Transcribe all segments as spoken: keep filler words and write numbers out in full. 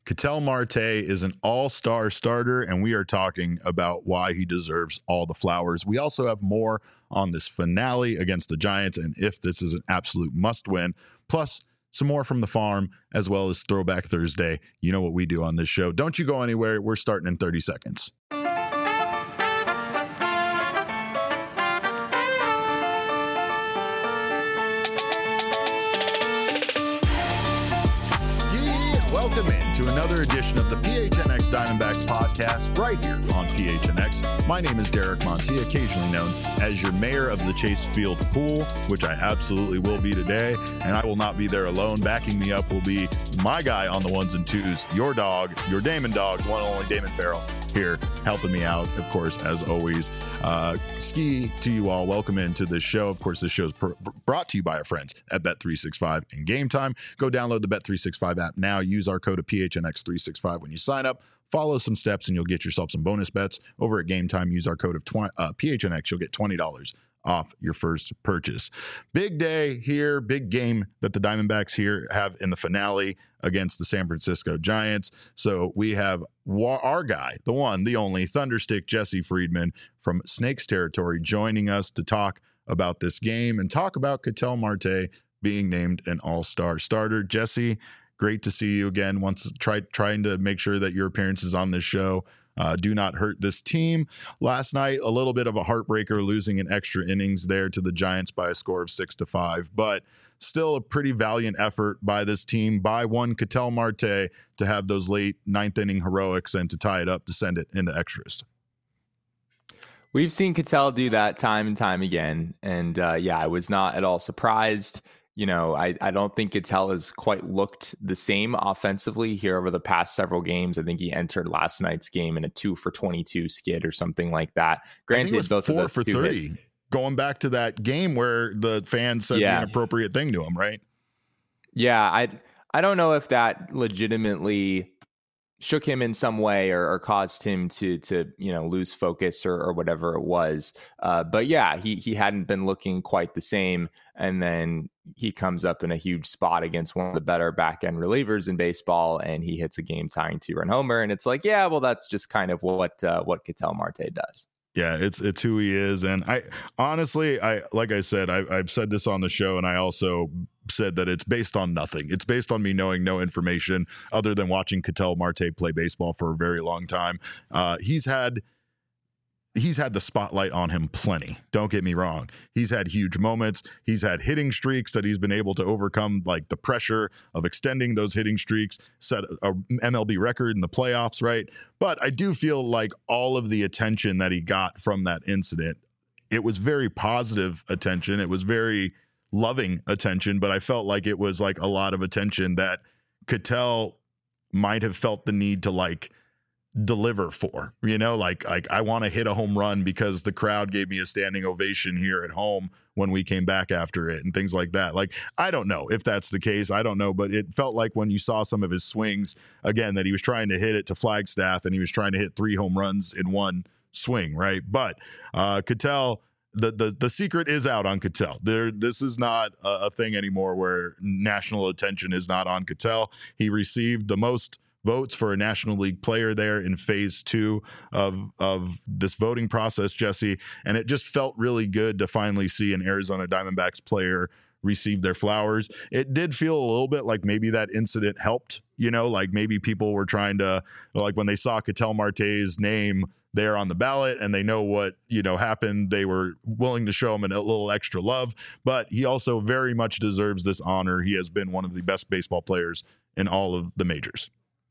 Ketel Marte is an all-star starter, and we are talking about why he deserves all the flowers. We also have more on this finale against the Giants and if this is an absolute must-win, plus some more from the farm, as well as Throwback Thursday. You know what we do on this show. Don't you go anywhere. We're starting in thirty seconds. Welcome in to another edition of the P H N X Diamondbacks podcast right here on P H N X. My name is Derek Monti, occasionally known as your mayor of the Chase Field Pool, which I absolutely will be today, and I will not be there alone. Backing me up will be my guy on the ones and twos, your dog, your Damon dog, one and only Damon Farrell here helping me out, of course, as always. Uh, ski to you all. Welcome into this show. Of course, this show is pr- brought to you by our friends at Bet three sixty-five and Game Time. Go download the Bet three sixty-five app now. Use our code of P H N X three sixty-five when you sign up. Follow some steps and you'll get yourself some bonus bets. Over at Game Time, use our code of twenty, uh, P H N X. You'll get twenty dollars off your first purchase. Big day here, big game that the Diamondbacks here have in the finale against the San Francisco Giants. So we have wa- our guy, the one, the only, Thunderstick Jesse Friedman from Snakes Territory joining us to talk about this game and talk about Ketel Marte being named an all-star starter. Jesse, great to see you again. Once try, trying to make sure that your appearances on this show Uh, do not hurt this team. Last night, a little bit of a heartbreaker, losing in extra innings there to the Giants by a score of six to five, but still a pretty valiant effort by this team, by one Ketel Marte, to have those late ninth inning heroics and to tie it up to send it into extras. We've seen Ketel do that time and time again. And uh, yeah, I was not at all surprised. You know, I, I don't think Ketel has quite looked the same offensively here over the past several games. I think he entered last night's game in a two for twenty-two skid or something like that. Granted, I think it was both four of those for two thirty, hits, going back to that game where the fans said yeah. the inappropriate thing to him, right? Yeah, I I don't know if that legitimately shook him in some way or, or caused him to to you know lose focus or, or whatever it was. Uh, but yeah, he he hadn't been looking quite the same, and then he comes up in a huge spot against one of the better back end relievers in baseball, and he hits a game tying two run homer, and it's like, yeah, well, that's just kind of what uh, what Ketel Marte does. Yeah, it's it's who he is, and I honestly, I like I said, I, I've said this on the show, and I also said that it's based on nothing. It's based on me knowing no information other than watching Ketel Marte play baseball for a very long time. Uh, he's had he's had the spotlight on him plenty. Don't get me wrong. He's had huge moments. He's had hitting streaks that he's been able to overcome, like the pressure of extending those hitting streaks, set a M L B record in the playoffs, right? But I do feel like all of the attention that he got from that incident, it was very positive attention. It was very loving attention, but I felt like it was like a lot of attention that Ketel might have felt the need to like deliver for, you know, like, like I want to hit a home run because the crowd gave me a standing ovation here at home when we came back after it and things like that. Like, I don't know if that's the case. I don't know, but it felt like when you saw some of his swings again, that he was trying to hit it to Flagstaff and he was trying to hit three home runs in one swing. Right. But uh, Ketel, The, the the secret is out on Ketel. There, this is not a, a thing anymore where national attention is not on Ketel. He received the most votes for a National League player there in phase two of of this voting process, Jesse, and it just felt really good to finally see an Arizona Diamondbacks player receive their flowers. It did feel a little bit like maybe that incident helped, you know, like maybe people were trying to, like when they saw Ketel Marte's name there on the ballot and they know what, you know, happened, they were willing to show him a little extra love. But he also very much deserves this honor. He has been one of the best baseball players in all of the majors.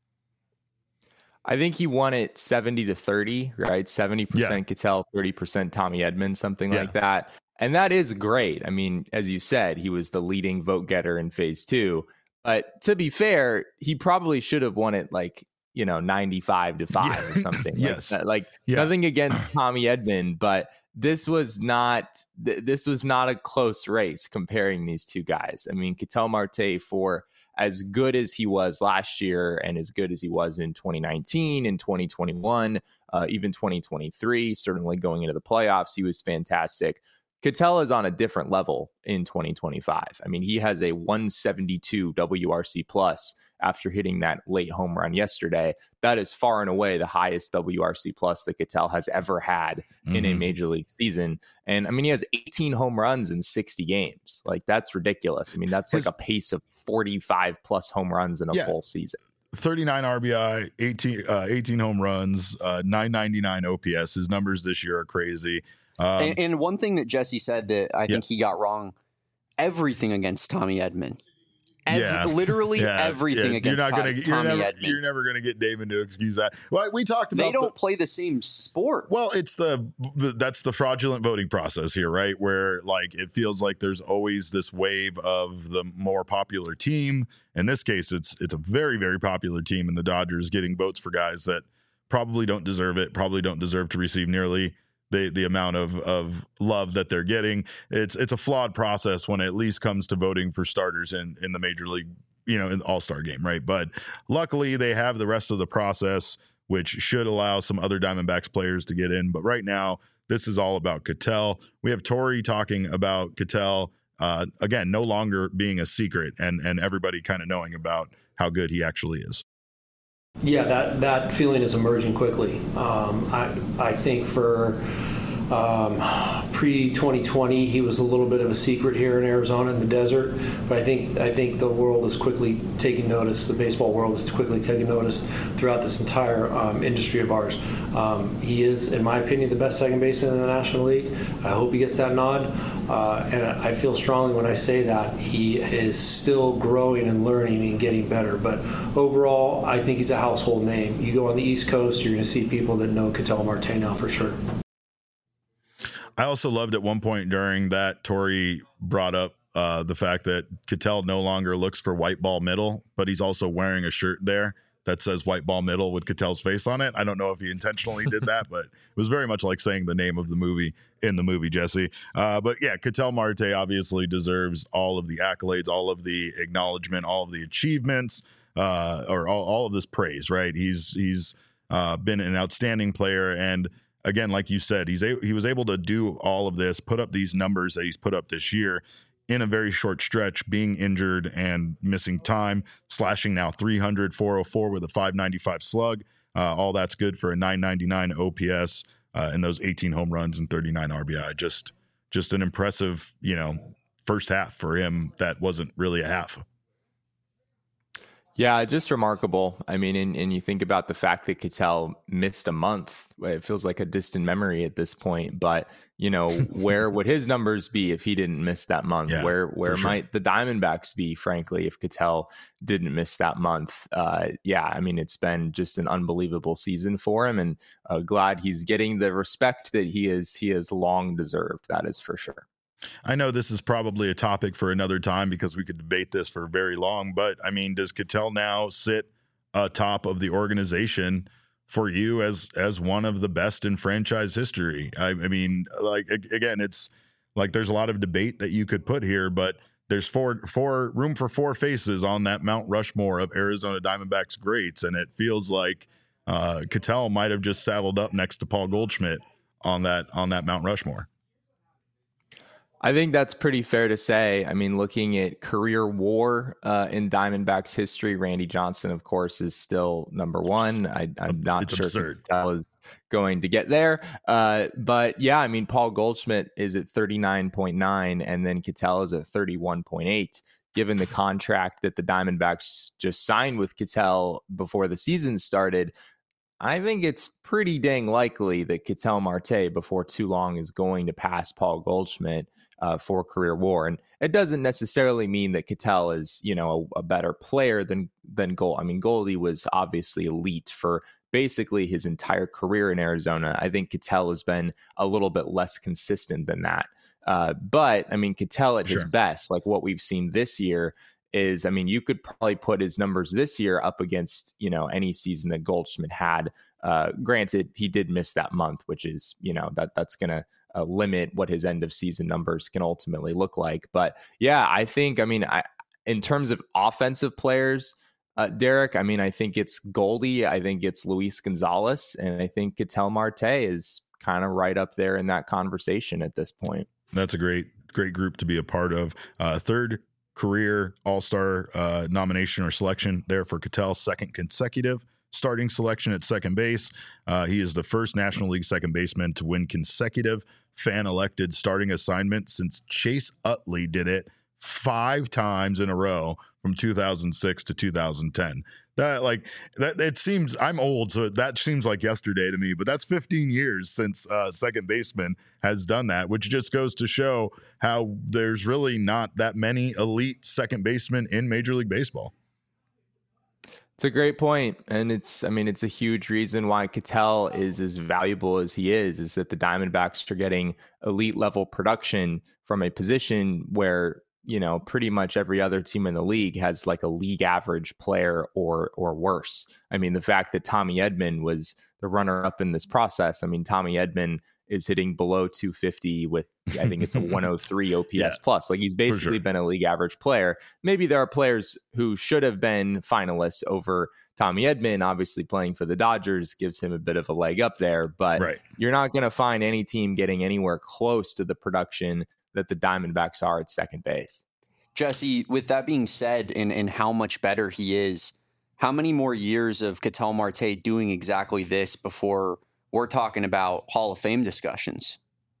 I think he won it seventy to thirty, right? seventy percent yeah. Ketel, thirty percent Tommy Edman, something yeah. like that. And that is great. I mean, as you said, he was the leading vote getter in phase two. But to be fair, he probably should have won it like, you know, ninety-five to five yeah. or something. yes. Like, like yeah. nothing against Tommy Edman, but this was not, th- this was not a close race comparing these two guys. I mean, Ketel Marte, for as good as he was last year and as good as he was in twenty nineteen and twenty twenty-one, uh, even twenty twenty-three, certainly going into the playoffs, he was fantastic. Ketel is on a different level in twenty twenty-five. I mean, he has a one seventy-two W R C plus after hitting that late home run yesterday. That is far and away the highest W R C plus that Ketel has ever had mm-hmm. in a major league season. And I mean, he has eighteen home runs in sixty games. Like, that's ridiculous. I mean, that's His, like a pace of forty-five plus home runs in a yeah. full season. thirty-nine R B I, eighteen, uh, eighteen home runs, uh, nine ninety-nine O P S. His numbers this year are crazy. Um, and, and one thing that Jesse said that I think yes. he got wrong, everything against Tommy Edman. Every, yeah. literally yeah. everything yeah. against you're not Tommy, gonna, Tommy you're never, Edman. You're never going to get Damon to excuse that. Well, we talked about They don't the, play the same sport. Well, it's the, the that's the fraudulent voting process here, right? Where like it feels like there's always this wave of the more popular team. In this case, it's it's a very, very popular team in the Dodgers getting votes for guys that probably don't deserve it, probably don't deserve to receive nearly the the amount of of love that they're getting. It's it's a flawed process when it at least comes to voting for starters in in the major league, you know, in the all-star game, right? But luckily they have the rest of the process, which should allow some other Diamondbacks players to get in. But right now, this is all about Ketel. We have Tori talking about Ketel, uh, again, no longer being a secret and and everybody kind of knowing about how good he actually is. Yeah, that, that feeling is emerging quickly. Um, I I think for um, pre twenty twenty, he was a little bit of a secret here in Arizona in the desert. But I think I think the world is quickly taking notice. The baseball world is quickly taking notice throughout this entire um, industry of ours. Um, he is, in my opinion, the best second baseman in the National League. I hope he gets that nod. Uh, and I feel strongly when I say that. He is still growing and learning and getting better. But overall, I think he's a household name. You go on the East Coast, you're going to see people that know Ketel Marte now for sure. I also loved at one point during that, Tori brought up uh, the fact that Ketel no longer looks for white ball middle, but he's also wearing a shirt there that says white ball middle with Ketel's face on it. I don't know if he intentionally did that, but it was very much like saying the name of the movie in the movie, Jesse. Uh, but yeah, Ketel Marte obviously deserves all of the accolades, all of the acknowledgement, all of the achievements, uh, or all, all of this praise, right? He's, he's uh, been an outstanding player. And again, like you said, he's a, he was able to do all of this, put up these numbers that he's put up this year in a very short stretch, being injured and missing time, slashing now three hundred, four oh four with a five ninety-five slug. Uh, all that's good for a nine ninety-nine O P S uh, and those eighteen home runs and thirty-nine R B I. Just, just an impressive, you know, first half for him. That wasn't really a half. Yeah, just remarkable. I mean, and, and you think about the fact that Ketel missed a month. It feels like a distant memory at this point. But, you know, where would his numbers be if he didn't miss that month? Yeah, where where sure. might the Diamondbacks be, frankly, if Ketel didn't miss that month? Uh, yeah, I mean, it's been just an unbelievable season for him. And uh, glad he's getting the respect that he is he has long deserved. That is for sure. I know this is probably a topic for another time because we could debate this for very long, but I mean, does Ketel now sit atop of the organization for you as as one of the best in franchise history? I, I mean, like again, it's like there's a lot of debate that you could put here, but there's four four room for four faces on that Mount Rushmore of Arizona Diamondbacks greats, and it feels like uh, Ketel might have just saddled up next to Paul Goldschmidt on that on that Mount Rushmore. I think that's pretty fair to say. I mean, looking at career WAR uh, in Diamondbacks history, Randy Johnson, of course, is still number one. I, I'm not it's sure absurd. if Ketel is going to get there. Uh, but yeah, I mean, Paul Goldschmidt is at thirty-nine point nine, and then Ketel is at thirty-one point eight. Given the contract that the Diamondbacks just signed with Ketel before the season started, I think it's pretty dang likely that Ketel Marte before too long is going to pass Paul Goldschmidt uh, for career WAR. And it doesn't necessarily mean that Ketel is, you know, a, a better player than, than Gold. I mean, Goldie was obviously elite for basically his entire career in Arizona. I think Ketel has been a little bit less consistent than that. Uh, but I mean, Ketel at Sure. his best, like what we've seen this year, is, I mean, you could probably put his numbers this year up against, you know, any season that Goldschmidt had. Uh, granted, he did miss that month, which is, you know, that that's going to uh, limit what his end of season numbers can ultimately look like. But yeah, I think, I mean, I, in terms of offensive players, uh, Derek, I mean, I think it's Goldie, I think it's Luis Gonzalez, and I think Ketel Marte is kind of right up there in that conversation at this point. That's a great, great group to be a part of. Uh, third career All-Star uh, nomination or selection there for Ketel, second consecutive starting selection at second base. Uh, he is the first National League second baseman to win consecutive fan-elected starting assignment since Chase Utley did it five times in a row from two thousand six to two thousand ten. That like that it seems I'm old, so that seems like yesterday to me, but that's fifteen years since uh second baseman has done that, which just goes to show how there's really not that many elite second basemen in Major League Baseball. It's a great point, and it's I mean it's a huge reason why Ketel is as valuable as he is is that the Diamondbacks are getting elite level production from a position where, you know, pretty much every other team in the league has like a league average player or or worse. I mean, the fact that Tommy Edman was the runner up in this process. I mean, Tommy Edman is hitting below two fifty with, I think it's a one oh three O P S yeah, plus. Like he's basically sure. been a league average player. Maybe there are players who should have been finalists over Tommy Edman. Obviously playing for the Dodgers gives him a bit of a leg up there, but right. you're not going to find any team getting anywhere close to the production that the Diamondbacks are at second base. Jesse, with that being said, and, and how much better he is, how many more years of Ketel Marte doing exactly this before we're talking about Hall of Fame discussions?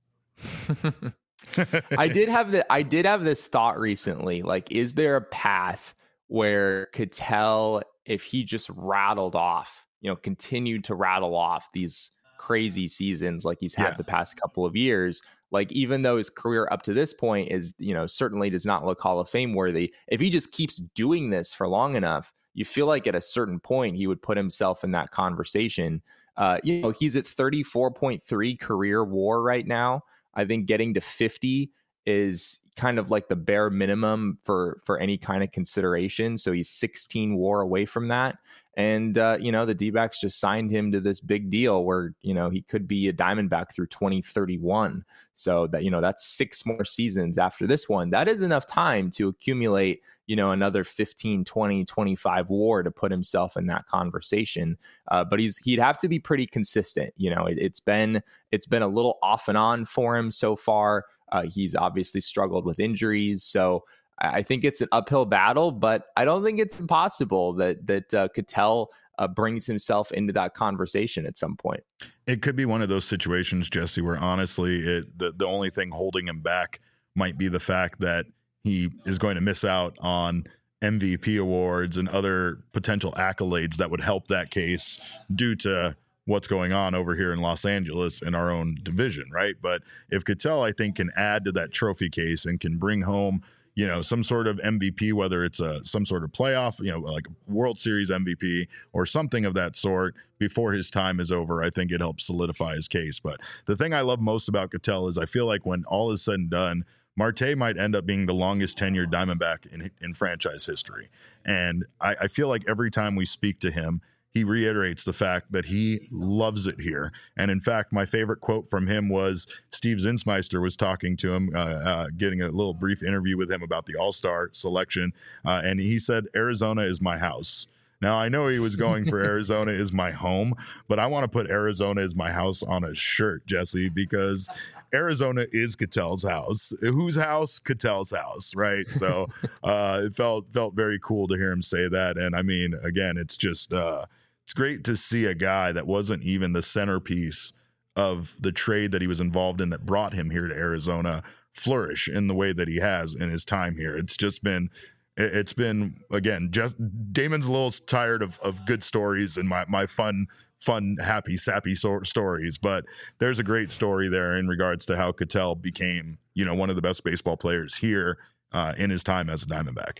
I did have the I did have this thought recently. Like, is there a path where Ketel, if he just rattled off, you know, continued to rattle off these crazy seasons like he's had yeah. the past couple of years, like even though his career up to this point is, you know, certainly does not look Hall of Fame worthy, if he just keeps doing this for long enough, you feel like at a certain point he would put himself in that conversation. Uh, you know, he's at thirty-four point three career WAR right now. I think getting to fifty is kind of like the bare minimum for for any kind of consideration. So he's sixteen WAR away from that. And, uh, you know, the D-backs just signed him to this big deal where, you know, he could be a Diamondback through twenty thirty-one. So that, you know, that's six more seasons after this one. That is enough time to accumulate, you know, another fifteen, twenty, twenty-five WAR to put himself in that conversation. Uh, but he's he'd have to be pretty consistent. You know, it, it's been it's been a little off and on for him so far. Uh, he's obviously struggled with injuries. So I think it's an uphill battle, but I don't think it's impossible that that uh, Ketel uh, brings himself into that conversation at some point. It could be one of those situations, Jesse, where honestly, it, the, the only thing holding him back might be the fact that he is going to miss out on M V P awards and other potential accolades that would help that case due to what's going on over here in Los Angeles in our own division, right? But if Ketel, I think, can add to that trophy case and can bring home, you know, some sort of M V P, whether it's a some sort of playoff, you know, like World Series M V P or something of that sort before his time is over, I think it helps solidify his case. But the thing I love most about Ketel is I feel like when all is said and done, Marte might end up being the longest tenured Diamondback in, in franchise history. And I, I feel like every time we speak to him, he reiterates the fact that he loves it here. And in fact, my favorite quote from him was Steve Zinsmeister was talking to him, uh, uh, getting a little brief interview with him about the All-Star selection. Uh, and he said, Arizona is my house. Now, I know he was going for Arizona is my home, but I want to put Arizona is my house on a shirt, Jesse, because Arizona is Ketel's house. Whose house? Ketel's house, right? So uh, it felt felt very cool to hear him say that. And I mean, again, it's just uh, it's great to see a guy that wasn't even the centerpiece of the trade that he was involved in that brought him here to Arizona flourish in the way that he has in his time here. It's just been It's been, again, just Damon's a little tired of, of good stories and my, my fun, fun, happy, sappy so- stories. But there's a great story there in regards to how Ketel became, you know, one of the best baseball players here uh, in his time as a Diamondback.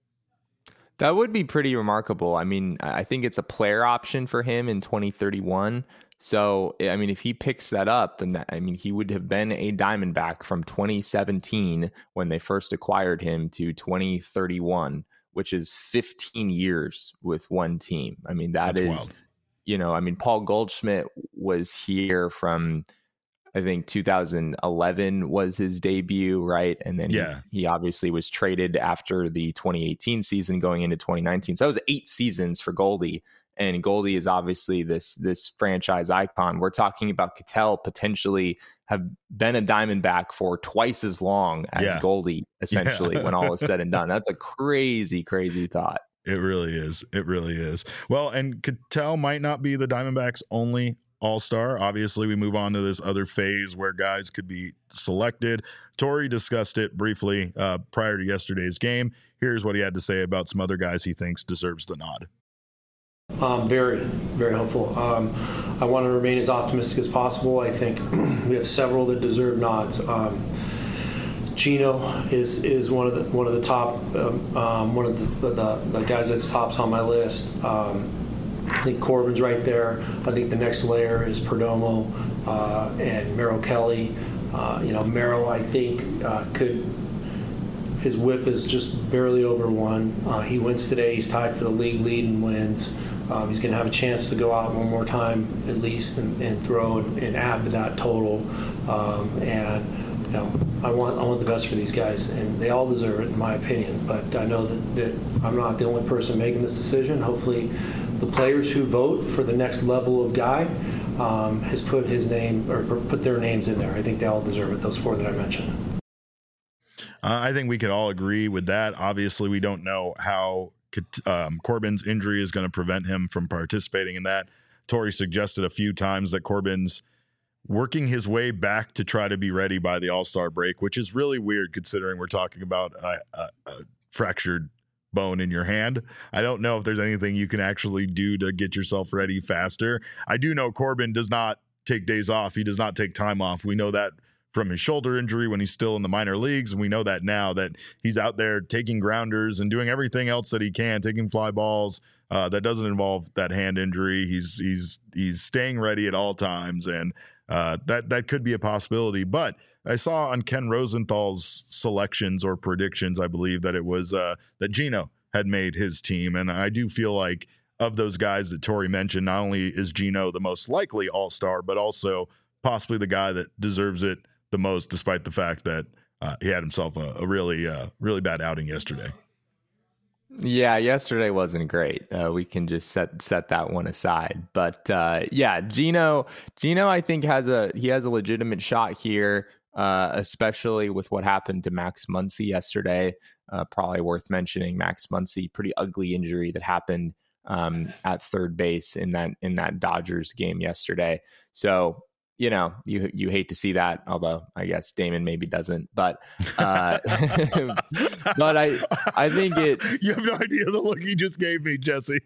That would be pretty remarkable. I mean, I think it's a player option for him in twenty thirty-one. So, I mean, if he picks that up, then that, I mean, he would have been a Diamondback from twenty seventeen when they first acquired him to twenty thirty-one, which is fifteen years with one team. I mean, that That's is, wild. You know, I mean, Paul Goldschmidt was here from, I think two thousand eleven was his debut, right? And then yeah. he, he obviously was traded after the twenty eighteen season going into twenty nineteen. So that was eight seasons for Goldie. And Goldie is obviously this this franchise icon. We're talking about Ketel potentially have been a Diamondback for twice as long as yeah. Goldie, essentially, yeah. when all is said and done. That's a crazy, crazy thought. It really is. It really is. Well, and Ketel might not be the Diamondbacks' only all-star. Obviously, we move on to this other phase where guys could be selected. Torey discussed it briefly uh, prior to yesterday's game. Here's what he had to say about some other guys he thinks deserves the nod. Um, very, very helpful. Um, I want to remain as optimistic as possible. I think we have several that deserve nods. Um, Gino is is one of the one of the top um, um, one of the, the the guys that's tops on my list. Um, I think Corbin's right there. I think the next layer is Perdomo uh, and Merrill Kelly. Uh, you know, Merrill, I think, uh, could. His whip is just barely over one. Uh, he wins today. He's tied for the league lead in wins. Um, he's going to have a chance to go out one more time at least and, and throw and, and add to that total. Um, and you know, I want I want the best for these guys, and they all deserve it, in my opinion. But I know that, that I'm not the only person making this decision. Hopefully, the players who vote for the next level of guy um, has put his name or put their names in there. I think they all deserve it. Those four that I mentioned. Uh, I think we could all agree with that. Obviously, we don't know how um, Corbin's injury is going to prevent him from participating in that. Torey suggested a few times that Corbin's working his way back to try to be ready by the All-Star break, which is really weird considering we're talking about a, a, a fractured bone in your hand. I don't know if there's anything you can actually do to get yourself ready faster. I do know Corbin does not take days off. He does not take time off. We know that from his shoulder injury when he's still in the minor leagues. And we know that now that he's out there taking grounders and doing everything else that he can, taking fly balls uh, that doesn't involve that hand injury. He's, he's, he's staying ready at all times. And uh, that, that could be a possibility. But I saw on Ken Rosenthal's selections or predictions, I believe that it was uh, that Gino had made his team. And I do feel like of those guys that Torey mentioned, not only is Gino the most likely all-star, but also possibly the guy that deserves it the most, despite the fact that uh, he had himself a, a really, uh, really bad outing yesterday. Yeah, yesterday wasn't great. Uh, we can just set set that one aside. But uh, yeah, Gino, Gino, I think has a he has a legitimate shot here, uh, especially with what happened to Max Muncy yesterday. Uh, probably worth mentioning Max Muncy, pretty ugly injury that happened um, at third base in that in that Dodgers game yesterday. So. You know, you you hate to see that, although I guess Damon maybe doesn't. But uh, but I I think it. You have no idea the look you just gave me, Jesse.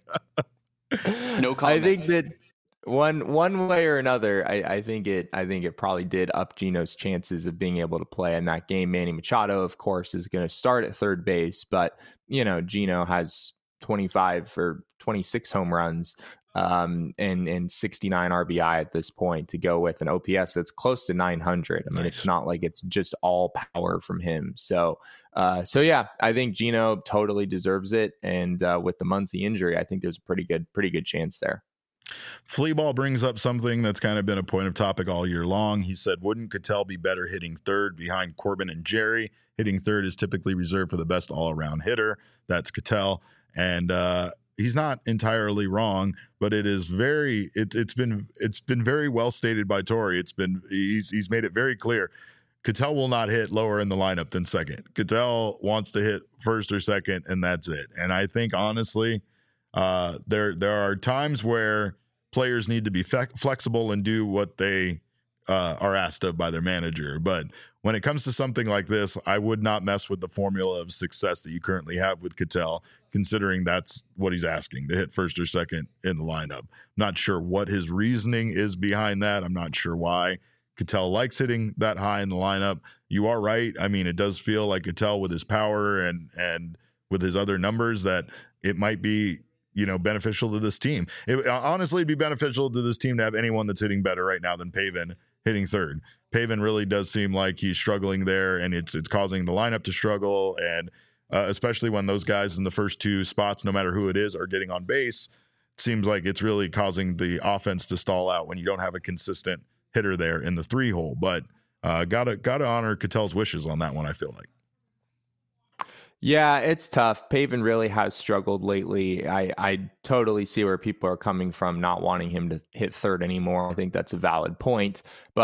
No comment. I think that one one way or another, I, I think it I think it probably did up Gino's chances of being able to play in that game. Manny Machado, of course, is going to start at third base, but you know, Gino has twenty-five or twenty-six home runs. Um, and, and sixty-nine R B I at this point to go with an O P S that's close to nine hundred. I mean, nice. It's not like it's just all power from him. So, uh, so yeah, I think Gino totally deserves it. And, uh, with the Muncy injury, I think there's a pretty good, pretty good chance there. Fleaball brings up something that's kind of been a point of topic all year long. He said, wouldn't Ketel be better hitting third behind Corbin and Jerry? Hitting third is typically reserved for the best all-around hitter. That's Ketel. And, uh, he's not entirely wrong, but it is very it, it's been it's been very well stated by Torey. It's been he's he's made it very clear. Ketel will not hit lower in the lineup than second. Ketel wants to hit first or second, and that's it. And I think honestly, uh, there there are times where players need to be fe- flexible and do what they uh, are asked of by their manager. But when it comes to something like this, I would not mess with the formula of success that you currently have with Ketel, considering that's what he's asking, to hit first or second in the lineup. Not sure what his reasoning is behind that. I'm not sure why Ketel likes hitting that high in the lineup. You are right. I mean, it does feel like Ketel with his power and and with his other numbers that it might be, you know, beneficial to this team. It honestly it'd be beneficial to this team to have anyone that's hitting better right now than Pavin hitting third. Pavin really does seem like he's struggling there, and it's it's causing the lineup to struggle, and uh, especially when those guys in the first two spots, no matter who it is, are getting on base, it seems like it's really causing the offense to stall out when you don't have a consistent hitter there in the three hole. But uh, gotta gotta honor Ketel's wishes on that one, I feel like. Yeah, it's tough. Pavin really has struggled lately. I, I totally see where people are coming from, not wanting him to hit third anymore. I think that's a valid point. But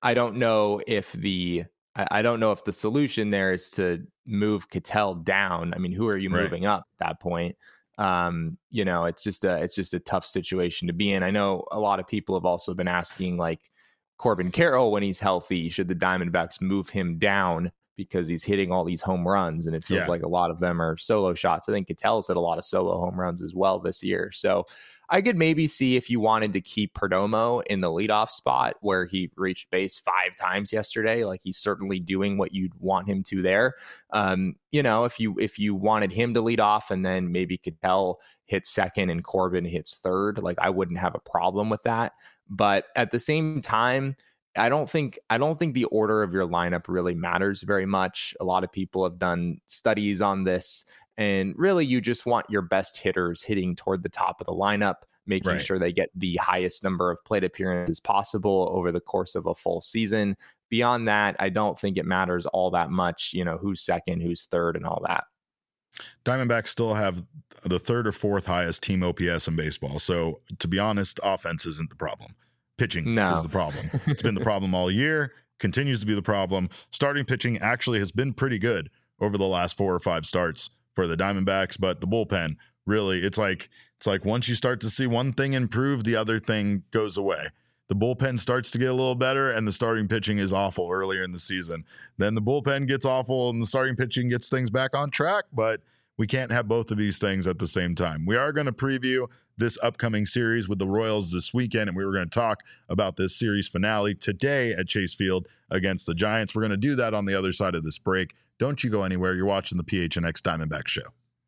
I don't know if the I, I don't know if the solution there is to move Ketel down. I mean, who are you Right. moving up at that point? Um, you know, it's just a it's just a tough situation to be in. I know a lot of people have also been asking, like, Corbin Carroll, when he's healthy, should the Diamondbacks move him down because he's hitting all these home runs, and it feels Yeah. like a lot of them are solo shots. I think Ketel's hit a lot of solo home runs as well this year. So I could maybe see if you wanted to keep Perdomo in the leadoff spot where he reached base five times yesterday. Like, he's certainly doing what you'd want him to there. Um, you know, if you if you wanted him to lead off and then maybe Ketel hits second and Corbin hits third, like, I wouldn't have a problem with that. But at the same time, I don't think I don't think the order of your lineup really matters very much. A lot of people have done studies on this, and really you just want your best hitters hitting toward the top of the lineup, making Right. sure they get the highest number of plate appearances possible over the course of a full season. Beyond that, I don't think it matters all that much, you know, who's second, who's third, and all that. Diamondbacks still have the third or fourth highest team O P S in baseball. So, to be honest, offense isn't the problem. Pitching No. is the problem. It's been the problem all year, continues to be the problem. Starting pitching actually has been pretty good over the last four or five starts for the Diamondbacks, but the bullpen, really, it's like it's like once you start to see one thing improve, the other thing goes away. The bullpen starts to get a little better, and the starting pitching is awful earlier in the season. Then the bullpen gets awful, and the starting pitching gets things back on track, but we can't have both of these things at the same time. We are going to preview this upcoming series with the Royals this weekend, and we were going to talk about this series finale today at Chase Field against the Giants. We're going to do that on the other side of this break. Don't you go anywhere. You're watching the P H N X Diamondback Show.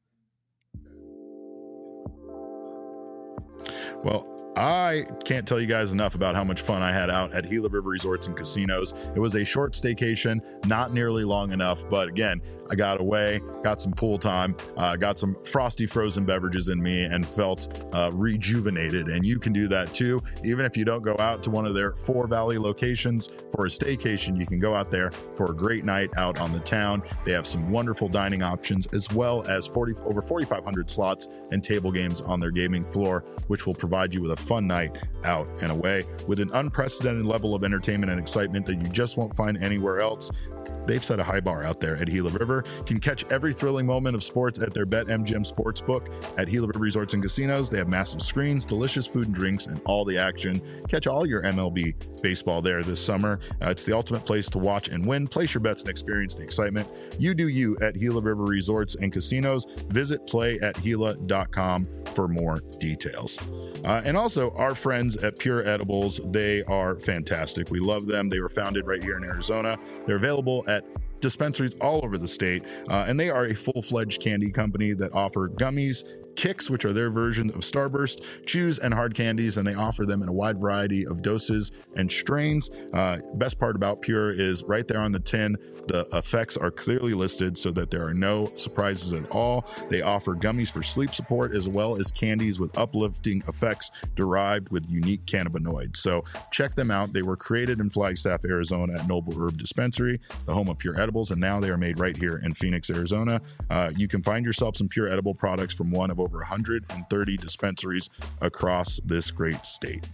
Well, I can't tell you guys enough about how much fun I had out at Gila River Resorts and Casinos. It was a short staycation, not nearly long enough, but again, I got away, got some pool time, uh, got some frosty frozen beverages in me, and felt uh, rejuvenated. And you can do that too. Even if you don't go out to one of their four valley locations for a staycation, you can go out there for a great night out on the town. They have some wonderful dining options, as well as forty over forty-five hundred slots and table games on their gaming floor, which will provide you with a fun night out and away with an unprecedented level of entertainment and excitement that you just won't find anywhere else. They've set a high bar out there at Gila River. You can catch every thrilling moment of sports at their BetMGM Sportsbook at Gila River Resorts and Casinos. They have massive screens, delicious food and drinks, and all the action. Catch all your M L B baseball there this summer. Uh, it's the ultimate place to watch and win. Place your bets and experience the excitement. You do you at Gila River Resorts and Casinos. Visit play at gila dot com for more details. Uh, and also our friends at Pure Edibles, they are fantastic. We love them. They were founded right here in Arizona. They're available at dispensaries all over the state, uh, and they are a full-fledged candy company that offer gummies, Kicks, which are their version of Starburst, chews, and hard candies, and they offer them in a wide variety of doses and strains. Uh, best part about Pure is right there on the tin, the effects are clearly listed so that there are no surprises at all. They offer gummies for sleep support as well as candies with uplifting effects derived with unique cannabinoids. So check them out. They were created in Flagstaff, Arizona at Noble Herb Dispensary, the home of Pure Edibles, and now they are made right here in Phoenix, Arizona. Uh, you can find yourself some Pure Edible products from one of over one hundred thirty dispensaries across this great state.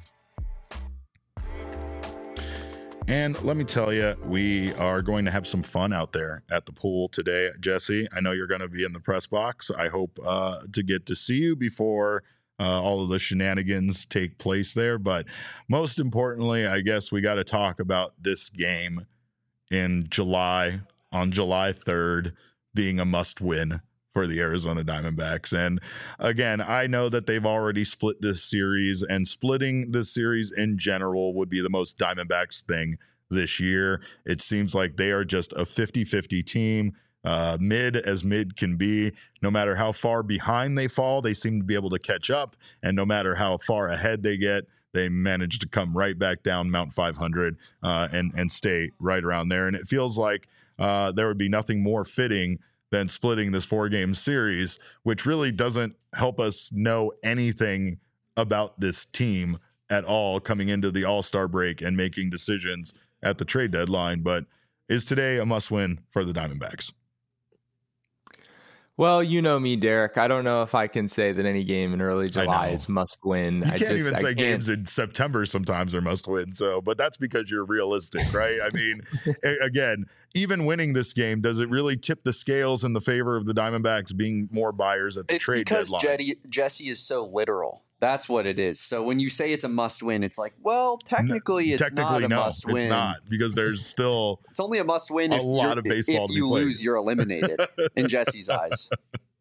And let me tell you, we are going to have some fun out there at the pool today. Jesse, I know you're going to be in the press box. I hope uh, to get to see you before uh, all of the shenanigans take place there. But most importantly, I guess we got to talk about this game in July, on July third, being a must-win for the Arizona Diamondbacks. And again, I know that they've already split this series, and splitting this series in general would be the most Diamondbacks thing this year. It seems like they are just a fifty-fifty team, uh, mid as mid can be. No matter how far behind they fall, they seem to be able to catch up. And no matter how far ahead they get, they manage to come right back down Mount five hundred uh, and, and stay right around there. And it feels like uh, there would be nothing more fitting than splitting this four-game series, which really doesn't help us know anything about this team at all coming into the All-Star break and making decisions at the trade deadline. But is today a must-win for the Diamondbacks? Well, you know me, Derek. I don't know if I can say that any game in early July is must win. You can't I just, even I say can't. games in September sometimes are must win. So, but that's because you're realistic, right? I mean, again, even winning this game, does it really tip the scales in the favor of the Diamondbacks being more buyers at the it's trade because deadline? Jetty, Jesse is so literal. That's what it is. So when you say it's a must win, it's like, well, technically no, it's technically, not a no, must win. It's not, because there's still it's only a must win a if, lot you're, of baseball if to be you played. lose, you're eliminated in Jesse's eyes.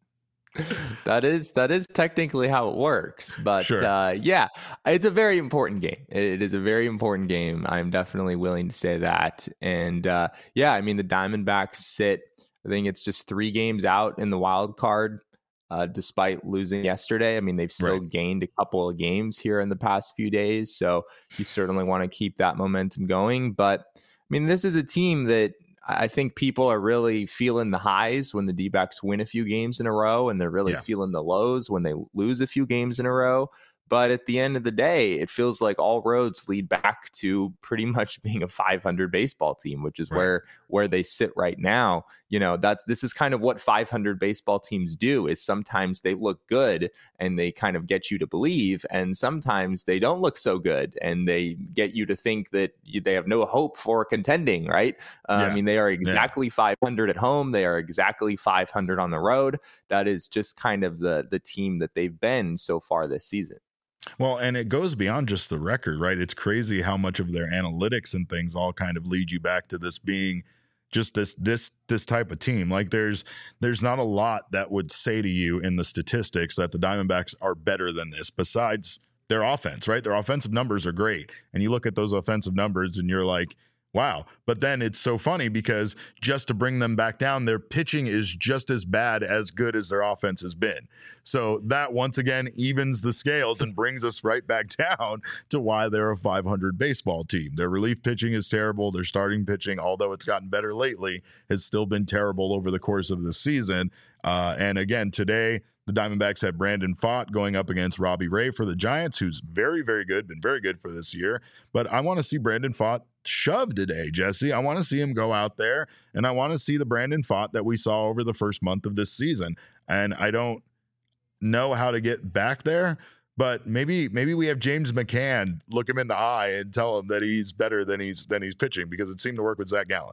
That is that is technically how it works, but Sure. uh, yeah, it's a very important game. It is a very important game. I'm definitely willing to say that. And uh, yeah, I mean the Diamondbacks sit. I think it's just three games out in the wild card, uh, despite losing yesterday. I mean they've still Right. gained a couple of games here in the past few days, so you certainly want to keep that momentum going. But I mean this is a team that I think people are really feeling the highs when the D-backs win a few games in a row, and they're really Yeah. feeling the lows when they lose a few games in a row. But at the end of the day, it feels like all roads lead back to pretty much being a five hundred baseball team, which is Right. where where they sit right now. You know, that's this is kind of what five hundred baseball teams do. Is sometimes they look good and they kind of get you to believe, and sometimes they don't look so good and they get you to think that you, they have no hope for contending. Right? Uh, Yeah. I mean, they are exactly yeah. five hundred at home. They are exactly five hundred on the road. That is just kind of the the team that they've been so far this season. Well, and it goes beyond just the record, right? It's crazy how much of their analytics and things all kind of lead you back to this being just this this this type of team. Like there's there's not a lot that would say to you in the statistics that the Diamondbacks are better than this besides their offense, right? Their offensive numbers are great. And you look at those offensive numbers and you're like, wow. But then it's so funny because just to bring them back down, their pitching is just as bad as good as their offense has been. So that once again evens the scales and brings us right back down to why they're a five hundred baseball team. Their relief pitching is terrible. Their starting pitching, although it's gotten better lately, has still been terrible over the course of the season. Uh, and again, today, the Diamondbacks had Brandon Pfaadt going up against Robbie Ray for the Giants, who's very, very good, been very good for this year. But I want to see Brandon Pfaadt shove today, Jesse. I want to see him go out there, and I want to see the Brandon Pfaadt that we saw over the first month of this season. And I don't know how to get back there, but maybe maybe we have James McCann look him in the eye and tell him that he's better than he's than he's pitching, because it seemed to work with Zach Gallen.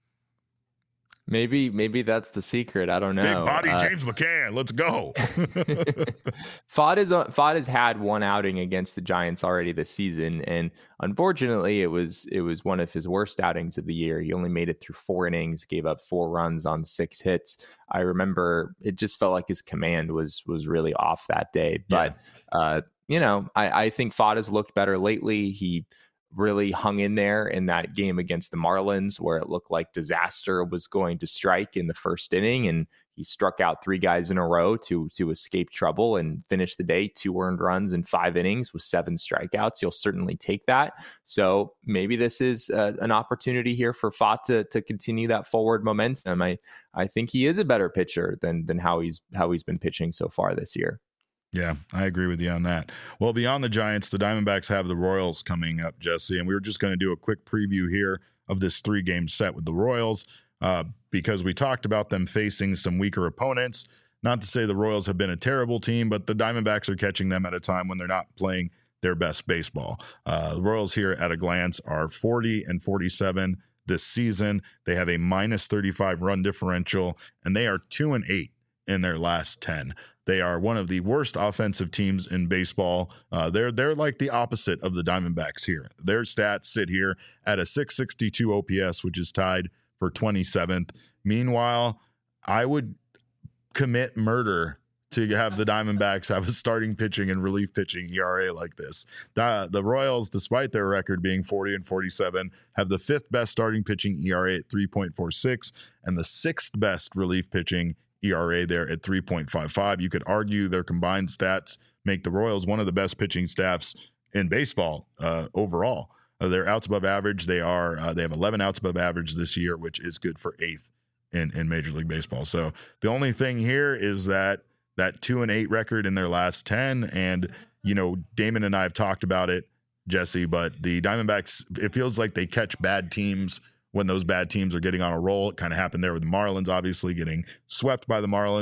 Maybe, maybe that's the secret. I don't know. Big body uh, James McCann. Let's go. Pfaadt is Pfaadt has had one outing against the Giants already this season, and unfortunately, it was it was one of his worst outings of the year. He only made it through four innings, gave up four runs on six hits. I remember it just felt like his command was was really off that day. But yeah. uh, you know, I, I think Pfaadt has looked better lately. He really hung in there in that game against the Marlins where it looked like disaster was going to strike in the first inning, and he struck out three guys in a row to to escape trouble and finish the day two earned runs in five innings with seven strikeouts. You'll certainly take that. So maybe this is uh, an opportunity here for Pfaadt to to continue that forward momentum. I I think he is a better pitcher than than how he's how he's been pitching so far this year. Yeah, I agree with you on that. Well, beyond the Giants, the Diamondbacks have the Royals coming up, Jesse, and we were just going to do a quick preview here of this three-game set with the Royals uh, because we talked about them facing some weaker opponents. Not to say the Royals have been a terrible team, but the Diamondbacks are catching them at a time when they're not playing their best baseball. Uh, the Royals here at a glance are forty and forty-seven this season. They have a minus thirty-five run differential, and they are two and eight in their last ten. They are one of the worst offensive teams in baseball. Uh, they're they're like the opposite of the Diamondbacks here. Their stats sit here at a six sixty-two O P S, which is tied for twenty-seventh. Meanwhile, I would commit murder to have the Diamondbacks have a starting pitching and relief pitching E R A like this. The, the Royals, despite their record being forty and forty-seven, have the fifth best starting pitching E R A at three point four six and the sixth best relief pitching E R A there at three point five five. You could argue their combined stats make the Royals one of the best pitching staffs in baseball uh, overall. Uh, they're outs above average. They are uh, they have eleven outs above average this year, which is good for eighth in, in Major League Baseball. So the only thing here is that that two and eight record in their last ten. And, you know, Damon and I have talked about it, Jesse, but the Diamondbacks, it feels like they catch bad teams when those bad teams are getting on a roll. It kind of happened there with the Marlins, obviously getting swept by the Marlins.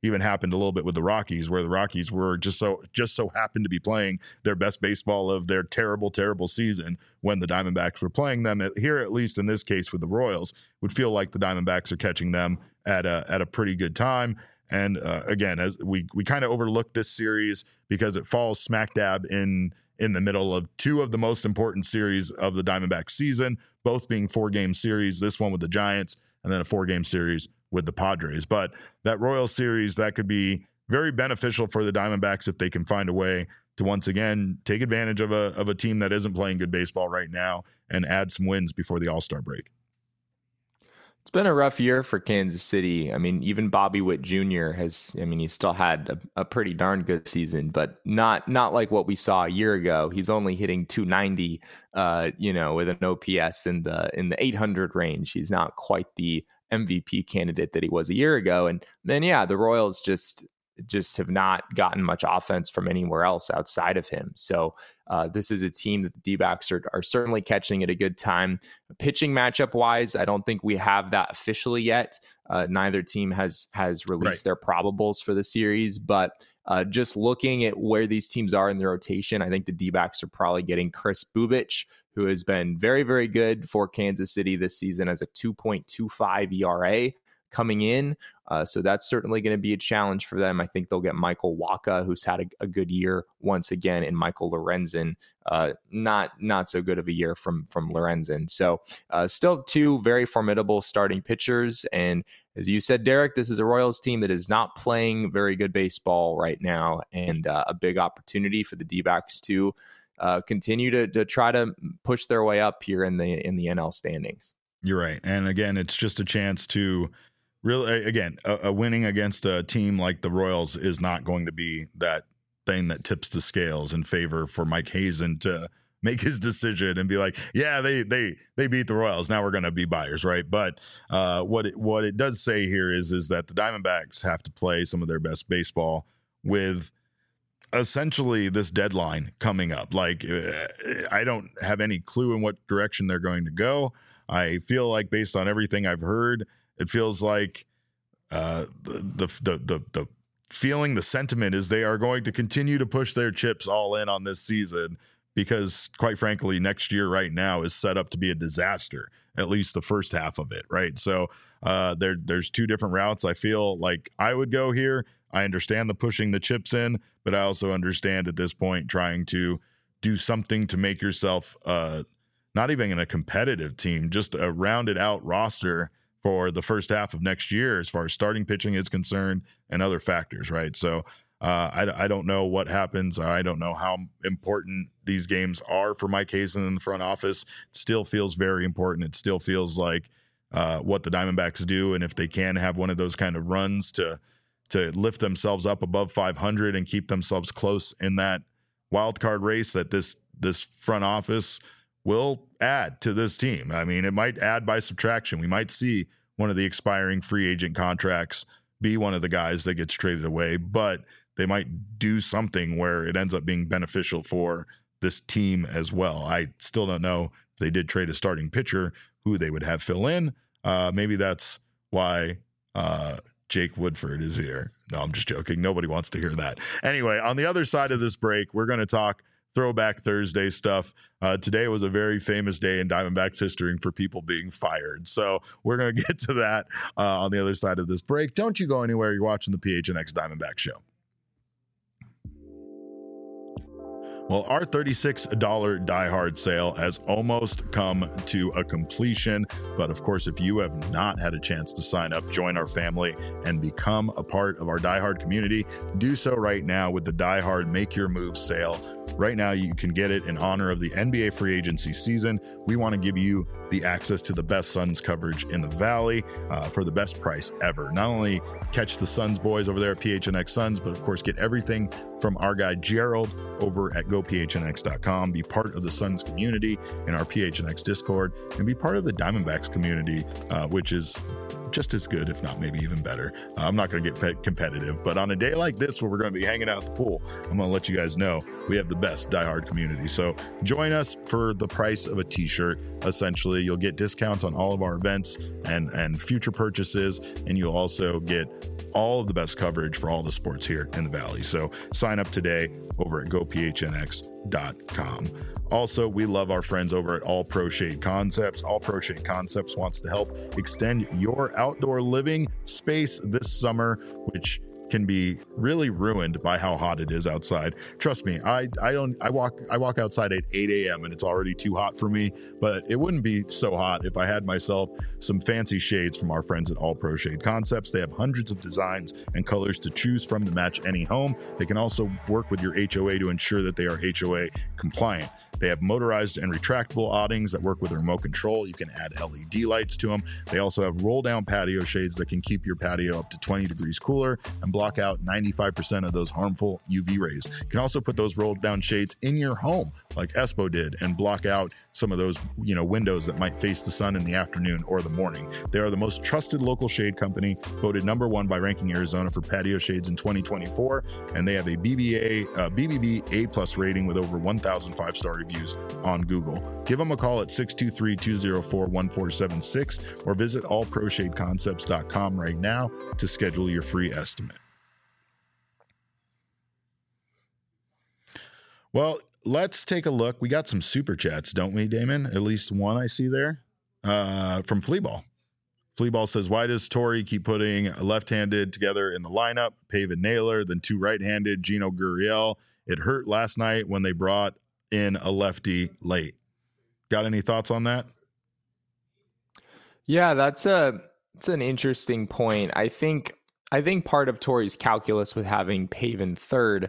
even happened a little bit with the Rockies, where the Rockies were just so just so happened to be playing their best baseball of their terrible, terrible season when the Diamondbacks were playing them. Here, at least in this case with the Royals, would feel like the Diamondbacks are catching them at a at a pretty good time. And uh, again, as we we kind of overlooked this series because it falls smack dab in in the middle of two of the most important series of the Diamondbacks season, both being four game series. This one with the Giants, and then a four game series with the Padres. But that Royals series, that could be very beneficial for the Diamondbacks if they can find a way to once again take advantage of a of a team that isn't playing good baseball right now and add some wins before the All-Star break. It's been a rough year for Kansas City. I mean, even Bobby Witt Junior has, I mean, he still had a, a pretty darn good season, but not not like what we saw a year ago. He's only hitting two ninety, uh, you know, with an O P S in the in the eight hundred range. He's not quite the M V P candidate that he was a year ago. And then, yeah, the Royals just just have not gotten much offense from anywhere else outside of him. So uh, this is a team that the D-backs are, are certainly catching at a good time. Pitching matchup wise, I don't think we have that officially yet. Uh, neither team has has released right. their probables for the series, but uh, just looking at where these teams are in the rotation, I think the D-backs are probably getting Chris Bubich, who has been very, very good for Kansas City this season as a two point two five E R A coming in. Uh, so that's certainly going to be a challenge for them. I think they'll get Michael Wacha, who's had a, a good year once again, and Michael Lorenzen, uh, not not so good of a year from from Lorenzen. So uh, still two very formidable starting pitchers. And as you said, Derek, this is a Royals team that is not playing very good baseball right now, and uh, a big opportunity for the D-backs to uh, continue to, to try to push their way up here in the in the N L standings. You're right. And again, it's just a chance to really, again, a, a winning against a team like the Royals is not going to be that thing that tips the scales in favor for Mike Hazen to make his decision and be like, yeah, they they they beat the Royals. Now we're going to be buyers, right? But uh, what it, what it does say here is is that the Diamondbacks have to play some of their best baseball with essentially this deadline coming up. Like, uh, I don't have any clue in what direction they're going to go. I feel like based on everything I've heard, it feels like uh, the, the the the feeling, the sentiment is they are going to continue to push their chips all in on this season because, quite frankly, next year right now is set up to be a disaster, at least the first half of it, right? So uh, there there's two different routes I feel like I would go here. I understand the pushing the chips in, but I also understand at this point trying to do something to make yourself uh, not even in a competitive team, just a rounded out roster for the first half of next year as far as starting pitching is concerned and other factors, right? So uh, I, I don't know what happens. I don't know how important these games are for Mike Hazen in the front office. It still feels very important. It still feels like uh, what the Diamondbacks do, and if they can have one of those kind of runs to to lift themselves up above five hundred and keep themselves close in that wild card race, that this this front office will add to this team. I mean, it might add by subtraction. We might see one of the expiring free agent contracts be one of the guys that gets traded away, but they might do something where it ends up being beneficial for this team as well. I still don't know if they did trade a starting pitcher, who they would have fill in. Uh, maybe that's why uh, Jake Woodford is here. No, I'm just joking. Nobody wants to hear that. Anyway, on the other side of this break, we're going to talk Throwback Thursday stuff. Uh, today was a very famous day in Diamondbacks history for people being fired. So we're going to get to that uh, on the other side of this break. Don't you go anywhere. You're watching the P H N X Diamondback Show. Well, our thirty-six dollars Die Hard sale has almost come to a completion. But of course, if you have not had a chance to sign up, join our family, and become a part of our Die Hard community, do so right now with the Die Hard Make Your Move sale. Right now, you can get it in honor of the N B A free agency season. We want to give you the access to the best Suns coverage in the Valley uh, for the best price ever. Not only catch the Suns boys over there at P H N X Suns, but of course, get everything from our guy Gerald over at go p h n x dot com. Be part of the Suns community in our P H N X Discord, and be part of the Diamondbacks community, uh, which is just as good, if not maybe even better. Uh, I'm not going to get pe- competitive, but on a day like this where we're going to be hanging out at the pool, I'm going to let you guys know we have the best diehard community. So join us for the price of a t-shirt. Essentially, you'll get discounts on all of our events and, and future purchases, and you'll also get all of the best coverage for all the sports here in the Valley. So sign up today over at go p h n x dot com. Also, we love our friends over at All Pro Shade Concepts. All Pro Shade Concepts wants to help extend your outdoor living space this summer, which can be really ruined by how hot it is outside. Trust me, I I don't I walk I walk outside at eight a.m. and it's already too hot for me, but it wouldn't be so hot if I had myself some fancy shades from our friends at All Pro Shade Concepts. They have hundreds of designs and colors to choose from to match any home. They can also work with your H O A to ensure that they are H O A compliant. They have motorized and retractable awnings that work with a remote control. You can add L E D lights to them. They also have roll down patio shades that can keep your patio up to twenty degrees cooler and block out ninety-five percent of those harmful U V rays. You can also put those rolled down shades in your home like Espo did and block out some of those, you know, windows that might face the sun in the afternoon or the morning. They are the most trusted local shade company, voted number one by Ranking Arizona for patio shades in twenty twenty-four, and they have a B B A uh, B B B A plus rating with over one thousand five-star reviews on Google. Give them a call at six two three, two zero four, one four seven six or visit all pro shade concepts dot com right now to schedule your free estimate. Well, let's take a look. We got some super chats, don't we, Damon? At least one I see there uh, from Fleaball. Fleaball says, why does Torrey keep putting a left-handed together in the lineup? Pavin Naylor, then two right-handed, Gino Gurriel. It hurt last night when they brought in a lefty late. Got any thoughts on that? Yeah, that's a it's an interesting point. I think I think part of Torrey's calculus with having Pavin third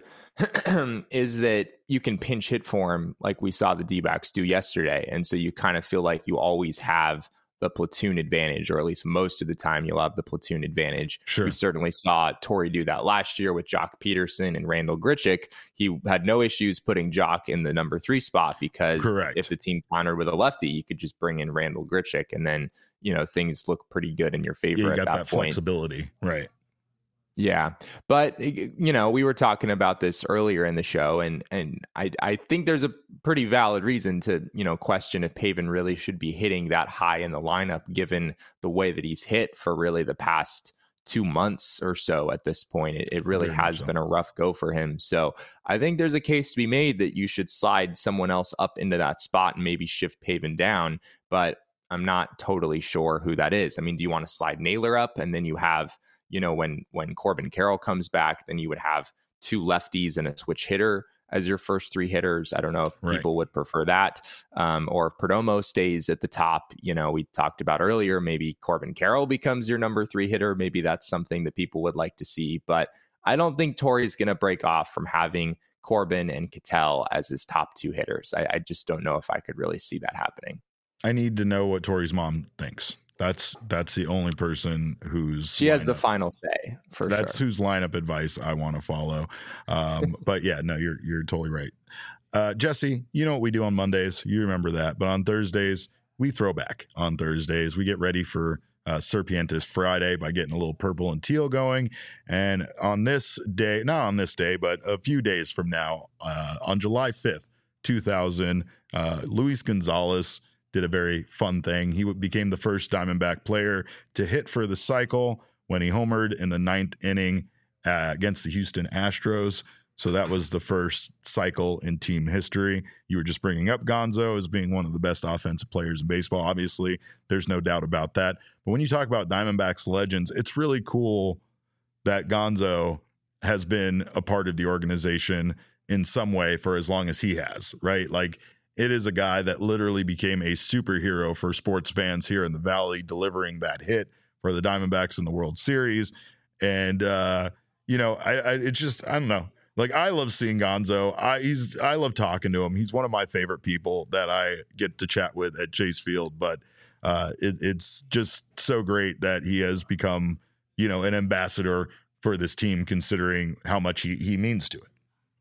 is that you can pinch hit for him like we saw the D-backs do yesterday. And so you kind of feel like you always have the platoon advantage, or at least most of the time you'll have the platoon advantage. Sure. We certainly saw Torrey do that last year with Jock Peterson and Randall Grichuk. He had no issues putting Jock in the number three spot because Correct. If the team countered with a lefty, you could just bring in Randall Grichuk and then, you know, things look pretty good in your favor Yeah, you at got that, that point. flexibility. Right. Yeah. But, you know, we were talking about this earlier in the show, and and I, I think there's a pretty valid reason to, you know, question if Pavin really should be hitting that high in the lineup, given the way that he's hit for really the past two months or so at this point. It, it really Very has so. been a rough go for him. So I think there's a case to be made that you should slide someone else up into that spot and maybe shift Pavin down. But I'm not totally sure who that is. I mean, do you want to slide Naylor up and then you have, you know, when when Corbin Carroll comes back, then you would have two lefties and a switch hitter as your first three hitters. I don't know if Right. people would prefer that. Um, or if Perdomo stays at the top, you know, we talked about earlier, maybe Corbin Carroll becomes your number three hitter. Maybe that's something that people would like to see. But I don't think Torrey's going to break off from having Corbin and Ketel as his top two hitters. I, I just don't know if I could really see that happening. I need to know what Torrey's mom thinks. That's that's the only person who's She has the lineup- final say for That's sure. whose lineup advice I want to follow. Um, but yeah, no, you're you're totally right. Uh, Jesse, you know what we do on Mondays. You remember that. But on Thursdays, we throw back. On Thursdays, we get ready for uh, Serpientes Friday by getting a little purple and teal going. And on this day, not on this day, but a few days from now, uh, on July fifth, two thousand, uh, Luis Gonzalez did a very fun thing. He became the first Diamondback player to hit for the cycle when he homered in the ninth inning uh, against the Houston Astros. So that was the first cycle in team history. You were just bringing up Gonzo as being one of the best offensive players in baseball. Obviously, there's no doubt about that. But when you talk about Diamondbacks legends, it's really cool that Gonzo has been a part of the organization in some way for as long as he has, right? Like, it is a guy that literally became a superhero for sports fans here in the Valley, delivering that hit for the Diamondbacks in the World Series. And, uh, you know, I, I it's just, I don't know. Like, I love seeing Gonzo. I he's I love talking to him. He's one of my favorite people that I get to chat with at Chase Field. But uh, it, it's just so great that he has become, you know, an ambassador for this team, considering how much he, he means to it.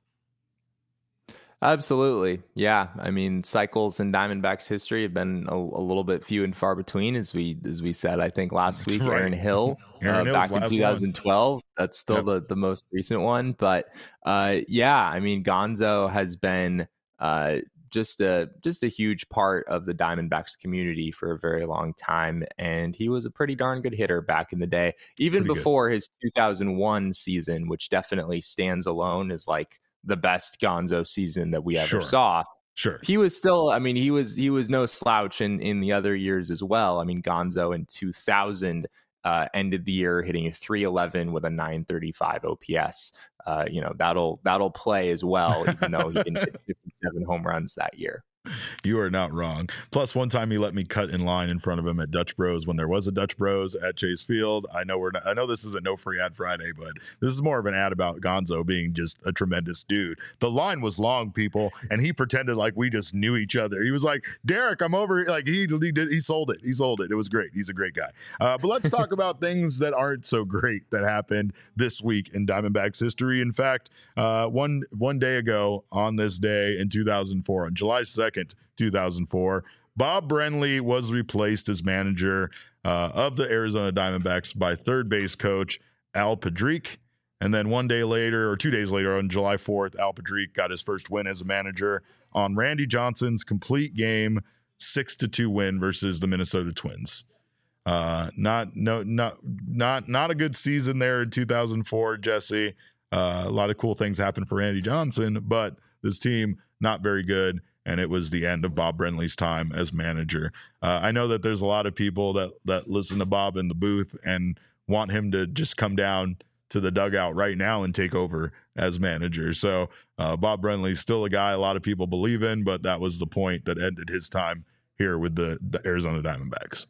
Absolutely. Yeah. I mean, cycles in Diamondbacks history have been a, a little bit few and far between, as we as we said, I think last week. Right. Aaron Hill, Aaron uh, Hill's back in last twenty twelve. one. That's still Yep. the, the most recent one. But uh, yeah, I mean, Gonzo has been uh, just a just a huge part of the Diamondbacks community for a very long time. And he was a pretty darn good hitter back in the day, even Pretty before his two thousand one season, which definitely stands alone as like the best Gonzo season that we ever Sure. saw. Sure. He was still, I mean, he was he was no slouch in, in the other years as well. I mean, Gonzo in two thousand uh, ended the year hitting a three eleven with a nine thirty-five O P S. Uh, you know, that'll that'll play as well, even though he didn't hit fifty-seven home runs that year. You are not wrong. Plus, one time he let me cut in line in front of him at Dutch Bros when there was a Dutch Bros at Chase Field. I know we're not, I know this is a no free ad Friday, but this is more of an ad about Gonzo being just a tremendous dude. The line was long, people, and he pretended like we just knew each other. He was like, "Derek, I'm over." Like he he, did, he sold it. He sold it. It was great. He's a great guy. Uh, but let's talk about things that aren't so great that happened this week in Diamondbacks history. In fact, uh, one one day ago on this day in two thousand four, on July second, two thousand four, Bob Brenly was replaced as manager uh, of the Arizona Diamondbacks by third base coach Al Padrique. And then one day later, or two days later, on July fourth, Al Padrique got his first win as a manager on Randy Johnson's complete game six to two win versus the Minnesota Twins. Uh, not no not not not a good season there in two thousand four, Jesse. Uh, a lot of cool things happened for Randy Johnson, but this team not very good. And it was the end of Bob Brenly's time as manager. Uh, I know that there's a lot of people that that listen to Bob in the booth and want him to just come down to the dugout right now and take over as manager. So uh, Bob Brenly's still a guy a lot of people believe in, but that was the point that ended his time here with the, the Arizona Diamondbacks.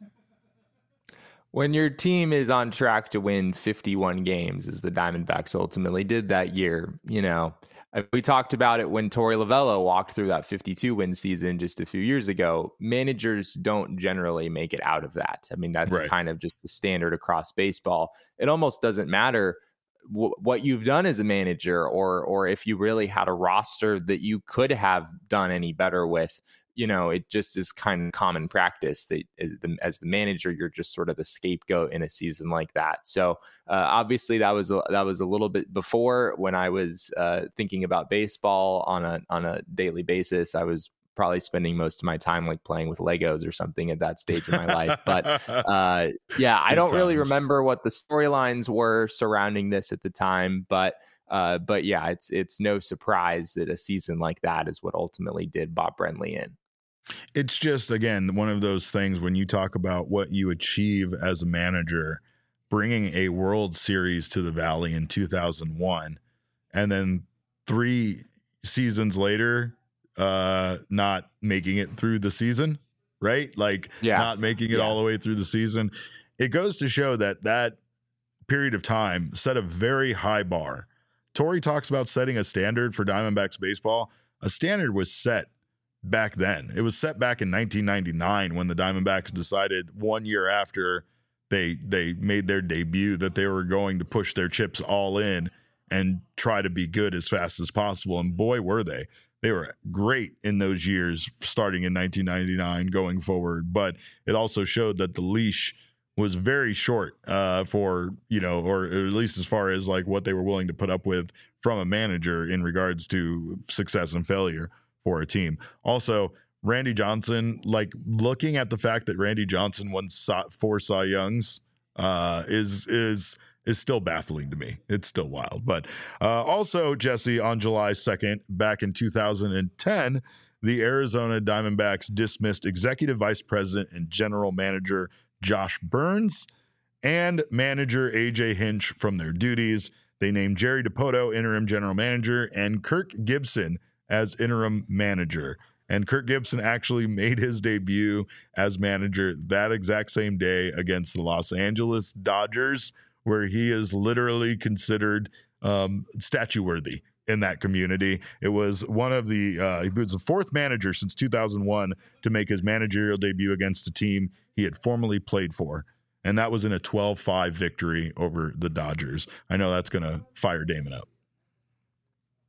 When your team is on track to win fifty-one games, as the Diamondbacks ultimately did that year, you know, we talked about it when Torey Lovullo walked through that fifty-two win season just a few years ago. Managers don't generally make it out of that. I mean, that's Right. kind of just the standard across baseball. It almost doesn't matter w- what you've done as a manager, or or if you really had a roster that you could have done any better with. You know, it just is kind of common practice that as the, as the manager, you're just sort of the scapegoat in a season like that. So uh, obviously that was a, that was a little bit before when I was uh, thinking about baseball on a on a daily basis. I was probably spending most of my time like playing with Legos or something at that stage of my life. But uh, yeah, I don't really remember what the storylines were surrounding this at the time, but. Uh, but yeah, it's it's no surprise that a season like that is what ultimately did Bob Brenly in. It's just, again, one of those things when you talk about what you achieve as a manager, bringing a World Series to the Valley in two thousand one, and then three seasons later, uh, not making it through the season, right? Like yeah. not making it yeah. all the way through the season. It goes to show that that period of time set a very high bar. Torey talks about setting a standard for Diamondbacks baseball. A standard was set back then. It was set back in nineteen ninety-nine when the Diamondbacks decided one year after they they made their debut that they were going to push their chips all in and try to be good as fast as possible. And boy, were they. They were great in those years starting in nineteen ninety-nine going forward. But it also showed that the leash was very short uh, for, you know, or at least as far as like what they were willing to put up with from a manager in regards to success and failure for a team. Also, Randy Johnson, like looking at the fact that Randy Johnson won four Cy Youngs uh, is is is still baffling to me. It's still wild. But uh, also, Jesse, on July second, back in two thousand ten, the Arizona Diamondbacks dismissed executive vice president and general manager Josh Burns and manager A J Hinch from their duties. They named Jerry Dipoto interim general manager and Kirk Gibson as interim manager. And Kirk Gibson actually made his debut as manager that exact same day against the Los Angeles Dodgers, where he is literally considered um, statue worthy in that community. It was one of the, uh, he was the fourth manager since two thousand one to make his managerial debut against a team he had formerly played for. And that was in a twelve five victory over the Dodgers. I know that's going to fire Damon up.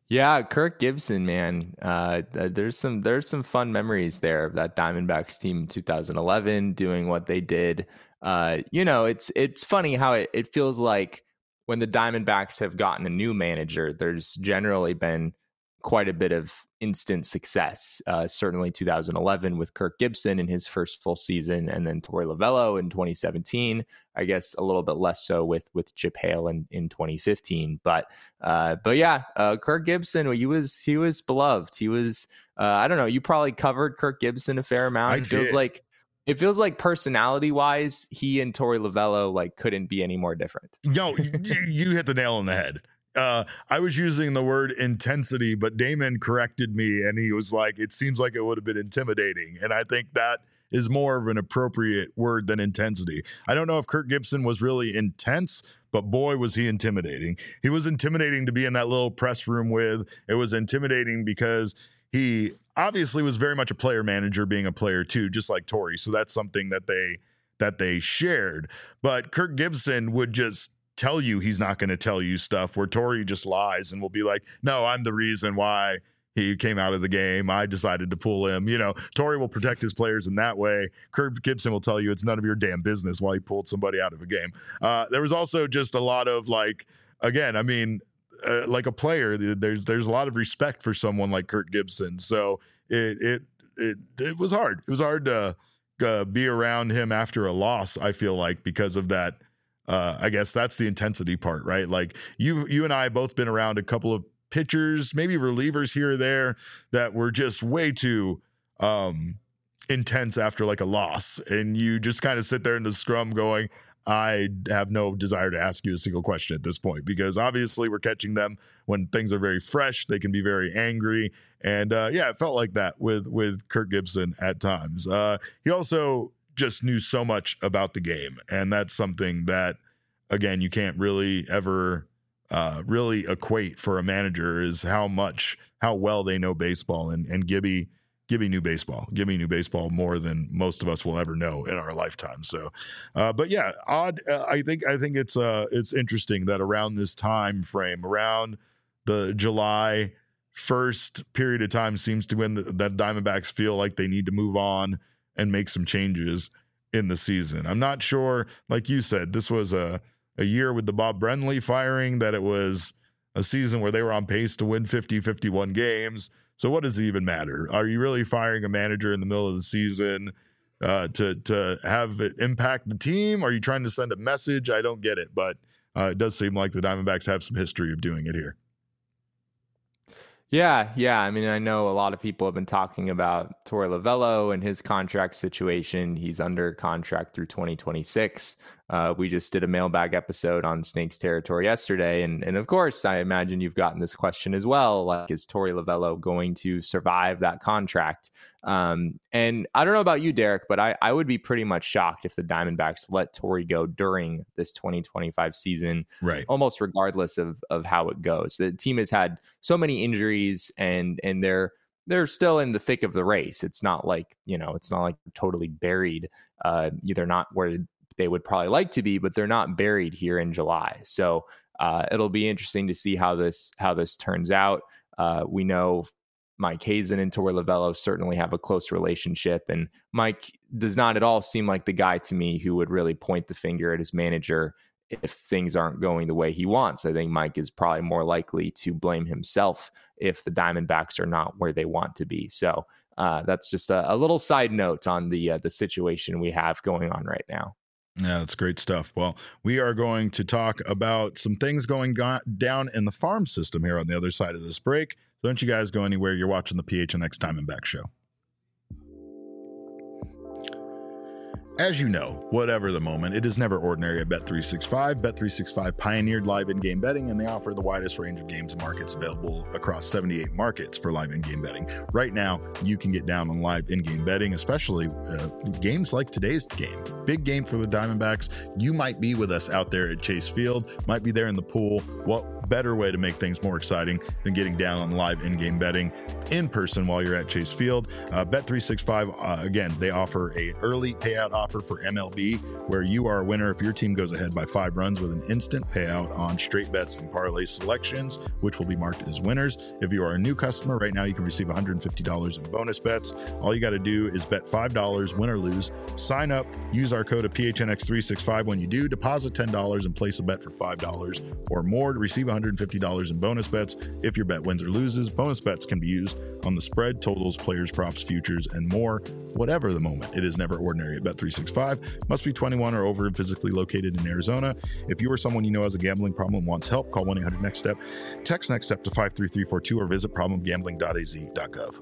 Yeah, Kirk Gibson, man. Uh, there's some there's some fun memories there of that Diamondbacks team in two thousand eleven doing what they did. Uh, you know, it's it's funny how it, it feels like when the Diamondbacks have gotten a new manager, there's generally been quite a bit of instant success. Uh, certainly two thousand eleven with Kirk Gibson in his first full season, and then Torey Lovullo in twenty seventeen. I guess a little bit less so with with Chip Hale in, in twenty fifteen. But uh, but yeah, uh, Kirk Gibson, he was he was beloved. He was uh, I don't know. You probably covered Kirk Gibson a fair amount. I It feels did. like it feels like personality wise, he and Torey Lovullo like couldn't be any more different. No, you, you hit the nail on the head. Uh, I was using the word intensity, but Damon corrected me and he was like, it seems like it would have been intimidating. And I think that is more of an appropriate word than intensity. I don't know if Kirk Gibson was really intense, but boy, was he intimidating. He was intimidating to be in that little press room with. It was intimidating because he obviously was very much a player manager, being a player too, just like Torey. So that's something that they that they shared. But Kirk Gibson would just tell you he's not going to tell you stuff, where Torey just lies and will be like, no, I'm the reason why he came out of the game. I decided to pull him. You know, Torey will protect his players in that way. Kirk Gibson will tell you it's none of your damn business why he pulled somebody out of a game. Uh, there was also just a lot of like, again, I mean, uh, like a player, there's there's a lot of respect for someone like Kirk Gibson. So it it it it was hard. It was hard to uh, be around him after a loss, I feel like, because of that. Uh, I guess that's the intensity part, right? Like you, you and I both been around a couple of pitchers, maybe relievers here or there, that were just way too um, intense after like a loss, and you just kind of sit there in the scrum going, I have no desire to ask you a single question at this point, because obviously we're catching them when things are very fresh. They can be very angry, and uh, yeah, it felt like that with with Kirk Gibson at times. Uh, he also just knew so much about the game, and that's something that, again, you can't really ever uh, really equate for a manager, is how much, how well they know baseball. And and Gibby, Gibby knew baseball. Gibby knew baseball more than most of us will ever know in our lifetime. So, uh, but yeah, odd. Uh, I think I think it's uh it's interesting that around this time frame, around the July first period of time, seems to when the, that Diamondbacks feel like they need to move on and make some changes in the season. I'm not sure, like you said, this was a, a year with the Bob Brenly firing, that it was a season where they were on pace to win fifty, fifty-one games. So what does it even matter? Are you really firing a manager in the middle of the season uh, to, to have it impact the team? Are you trying to send a message? I don't get it, but uh, it does seem like the Diamondbacks have some history of doing it here. Yeah, yeah. I mean, I know a lot of people have been talking about Torey Lovullo and his contract situation. He's under contract through twenty twenty-six. Uh, we just did a mailbag episode on Snakes Territory yesterday. And, and of course, I imagine you've gotten this question as well. Like, is Torey Lovullo going to survive that contract? Um, and I don't know about you, Derek, but I, I would be pretty much shocked if the Diamondbacks let Torey go during this twenty twenty-five season, right? Almost regardless of of how it goes. The team has had so many injuries, and and they're they're still in the thick of the race. It's not like, you know, it's not like they're totally buried. Uh, they're not where they would probably like to be, but they're not buried here in July. So uh, it'll be interesting to see how this how this turns out. Uh, we know Mike Hazen and Torey Lovullo certainly have a close relationship, and Mike does not at all seem like the guy to me who would really point the finger at his manager if things aren't going the way he wants. I think Mike is probably more likely to blame himself if the Diamondbacks are not where they want to be. So uh, that's just a, a little side note on the uh, the situation we have going on right now. Yeah, that's great stuff. Well, we are going to talk about some things going go- down in the farm system here on the other side of this break. So don't you guys go anywhere. You're watching the P H N X Diamondback Show. As you know, whatever the moment, it is never ordinary at Bet three sixty-five. Bet three sixty-five pioneered live in-game betting, and they offer the widest range of games and markets available across seventy-eight markets for live in-game betting. Right now, you can get down on live in-game betting, especially uh, games like today's game. Big game for the Diamondbacks. You might be with us out there at Chase Field, might be there in the pool. Well, better way to make things more exciting than getting down on live in-game betting in person while you're at Chase Field. Uh, Bet three sixty-five, uh, again, they offer a early payout offer for M L B where you are a winner if your team goes ahead by five runs with an instant payout on straight bets and parlay selections, which will be marked as winners. If you are a new customer, right now you can receive one hundred fifty dollars in bonus bets. All you got to do is bet five dollars, win or lose. Sign up, use our code of P H N X three sixty-five when you do. Deposit ten dollars and place a bet for five dollars or more to receive one hundred fifty dollars in bonus bets if your bet wins or loses. Bonus bets can be used on the spread, totals, players, props, futures, and more. Whatever the moment, it is never ordinary at Bet three sixty-five. Must be twenty-one or over and physically located in Arizona. If you or someone you know has a gambling problem and wants help, call one eight hundred next step. Text next step to five three three four two or visit problem gambling dot a z dot gov.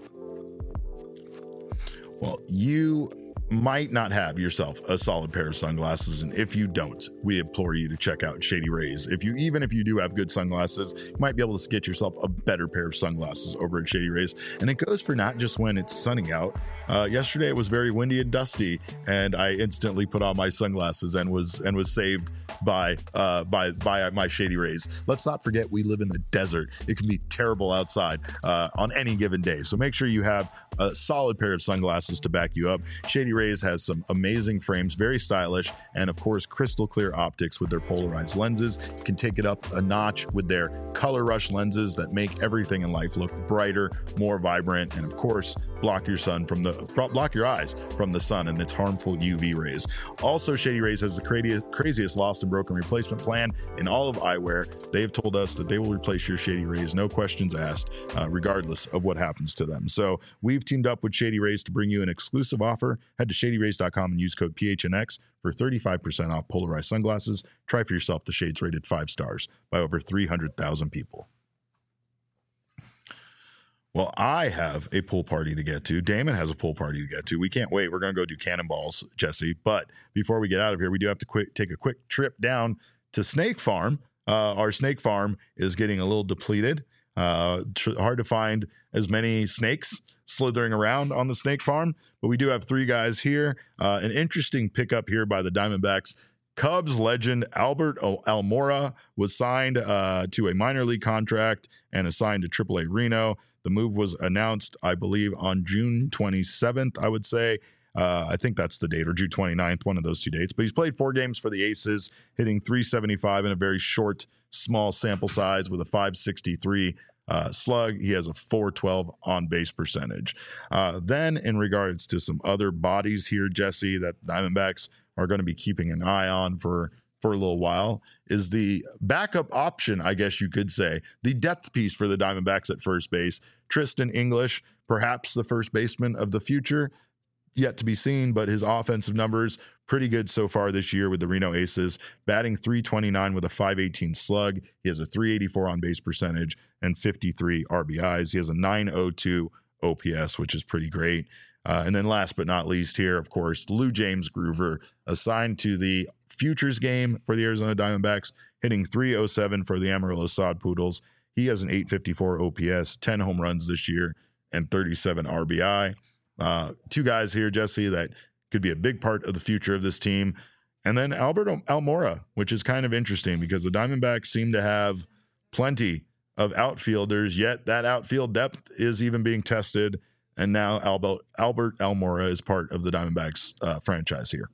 Well, you might not have yourself a solid pair of sunglasses, and if you don't, we implore you to check out Shady Rays. If you even if you do have good sunglasses, you might be able to get yourself a better pair of sunglasses over at Shady Rays. And it goes for not just when it's sunny out. Uh, yesterday it was very windy and dusty, and I instantly put on my sunglasses and was and was saved by uh, by by my Shady Rays. Let's not forget we live in the desert. It can be terrible outside uh, on any given day. So make sure you have a solid pair of sunglasses to back you up. Shady Rays has some amazing frames, very stylish, and of course crystal clear optics with their polarized lenses. You can take it up a notch with their color rush lenses that make everything in life look brighter, more vibrant, and of course block your sun from the block your eyes from the sun and its harmful U V rays. Also, Shady Rays has the craziest, craziest lost and broken replacement plan in all of eyewear. They have told us that they will replace your Shady Rays, no questions asked, uh, regardless of what happens to them. So we've teamed up with Shady Rays to bring you an exclusive offer. Head to shady rays dot com and use code P H N X for thirty-five percent off polarized sunglasses. Try for yourself the shades rated five stars by over three hundred thousand people. Well, I have a pool party to get to. Damon has a pool party to get to. We can't wait. We're going to go do cannonballs, Jesse. But before we get out of here, we do have to quick, take a quick trip down to Snake Farm. Uh, our snake farm is getting a little depleted. Uh, tr- hard to find as many snakes slithering around on the snake farm. But we do have three guys here. Uh, an interesting pickup here by the Diamondbacks. Cubs legend Albert Almora was signed uh, to a minor league contract and assigned to triple A Reno. The move was announced, I believe, on June twenty-seventh, I would say. Uh, I think that's the date, or June twenty-ninth, one of those two dates. But he's played four games for the Aces, hitting three seventy-five in a very short, small sample size with a five sixty-three uh, slug. He has a four twelve on-base percentage. Uh, then, in regards to some other bodies here, Jesse, that Diamondbacks are going to be keeping an eye on for for a little while, is the backup option, I guess you could say, the depth piece for the Diamondbacks at first base. Tristan English, perhaps the first baseman of the future, yet to be seen, but his offensive numbers pretty good so far this year with the Reno Aces, batting three twenty-nine with a five eighteen slug. He has a three eighty-four on base percentage and fifty-three R B Is. He has a nine oh two O P S, which is pretty great. Uh, and then last but not least here, of course, Lou James Groover, assigned to the futures game for the Arizona Diamondbacks, hitting three oh seven for the Amarillo Sod Poodles. He has an eight fifty-four O P S, ten home runs this year, and thirty-seven R B I. Uh, two guys here, Jesse, that could be a big part of the future of this team. And then Albert Almora, which is kind of interesting because the Diamondbacks seem to have plenty of outfielders, yet that outfield depth is even being tested. And now Albert, Albert Almora is part of the Diamondbacks uh, franchise here.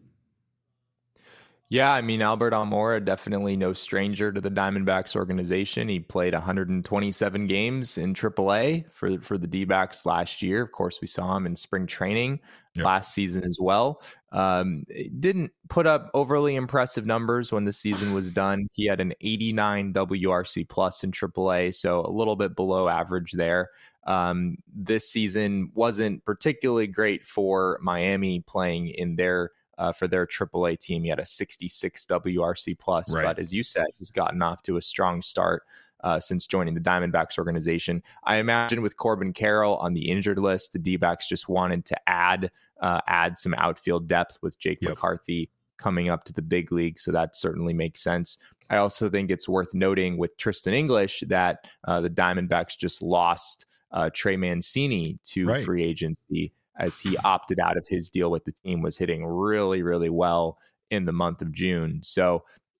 Yeah, I mean, Albert Almora, definitely no stranger to the Diamondbacks organization. He played one hundred twenty-seven games in triple A for, for the D-backs last year. Of course, we saw him in spring training yep. last season as well. Um, didn't put up overly impressive numbers when the season was done. He had an eighty-nine W R C plus in triple A, so a little bit below average there. Um, this season wasn't particularly great for Miami playing in their Uh, for their triple A team. He had a sixty-six W R C plus, right. But as you said, he's gotten off to a strong start uh, since joining the Diamondbacks organization. I imagine with Corbin Carroll on the injured list, the D-backs just wanted to add uh, add some outfield depth with Jake yep. McCarthy coming up to the big league, so that certainly makes sense. I also think it's worth noting with Tristan English that uh, the Diamondbacks just lost uh, Trey Mancini to right. free agency, as he opted out of his deal with the team, was hitting really, really well in the month of June. So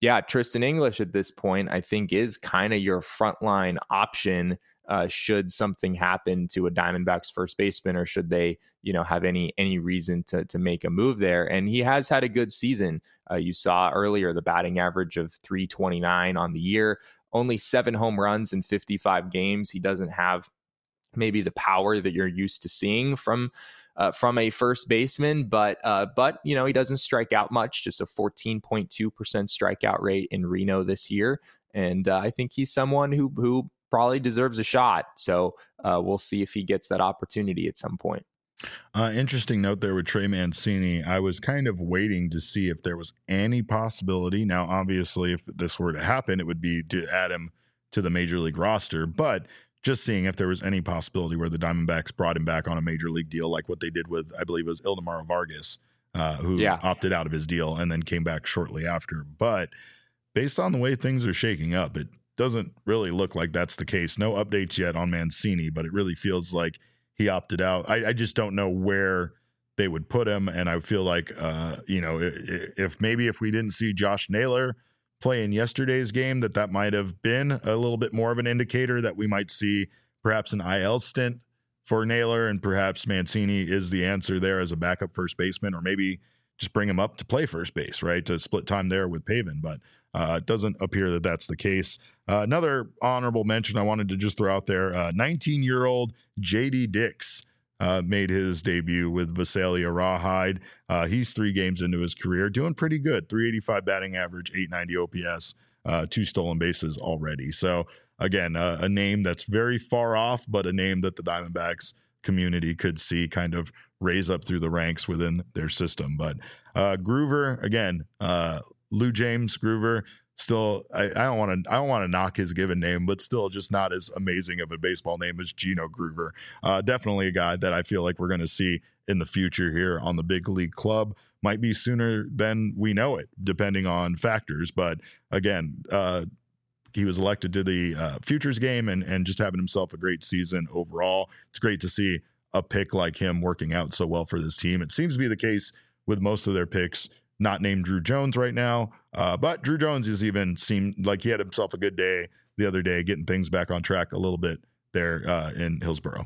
yeah, Tristan English at this point, I think, is kind of your frontline option. Uh, should something happen to a Diamondbacks first baseman, or should they, you know, have any any reason to to make a move there? And he has had a good season. Uh, you saw earlier the batting average of three twenty-nine on the year, only seven home runs in fifty-five games. He doesn't have maybe the power that you're used to seeing from uh, from a first baseman, but uh, but you know, he doesn't strike out much. Just a fourteen point two percent strikeout rate in Reno this year, and uh, I think he's someone who who. probably deserves a shot. So uh, we'll see if he gets that opportunity at some point. Uh, interesting note there with Trey Mancini. I was kind of waiting to see if there was any possibility. Now, obviously, if this were to happen, it would be to add him to the major league roster. But just seeing if there was any possibility where the Diamondbacks brought him back on a major league deal, like what they did with, I believe it was Ildemaro Vargas, uh, who yeah. opted out of his deal and then came back shortly after. But based on the way things are shaking up, it doesn't really look like that's the case. No updates yet on Mancini, but it really feels like he opted out. I, I just don't know where they would put him. And I feel like, uh, you know, if, if maybe if we didn't see Josh Naylor play in yesterday's game, that that might have been a little bit more of an indicator that we might see perhaps an I L stint for Naylor, and perhaps Mancini is the answer there as a backup first baseman, or maybe just bring him up to play first base, right, to split time there with Pavin. But uh, it doesn't appear that that's the case. Uh, another honorable mention I wanted to just throw out there, uh, nineteen-year-old J D Dix uh, made his debut with Visalia Rawhide. Uh, he's three games into his career, doing pretty good, three eighty-five batting average, eight ninety O P S, uh, two stolen bases already. So, again, uh, a name that's very far off, but a name that the Diamondbacks community could see kind of raise up through the ranks within their system. But uh, Groover, again, uh, Lou James Groover, still, I, I don't want to, I don't want to knock his given name, but still just not as amazing of a baseball name as Gino Groover. Uh, definitely a guy that I feel like we're going to see in the future here on the big league club. Might be sooner than we know it, depending on factors. But again, uh, he was elected to the uh, Futures game and, and just having himself a great season overall. It's great to see a pick like him working out so well for this team. It seems to be the case with most of their picks, not named Drew Jones right now. Uh, but Drew Jones has even seemed like he had himself a good day the other day, getting things back on track a little bit there uh, in Hillsboro.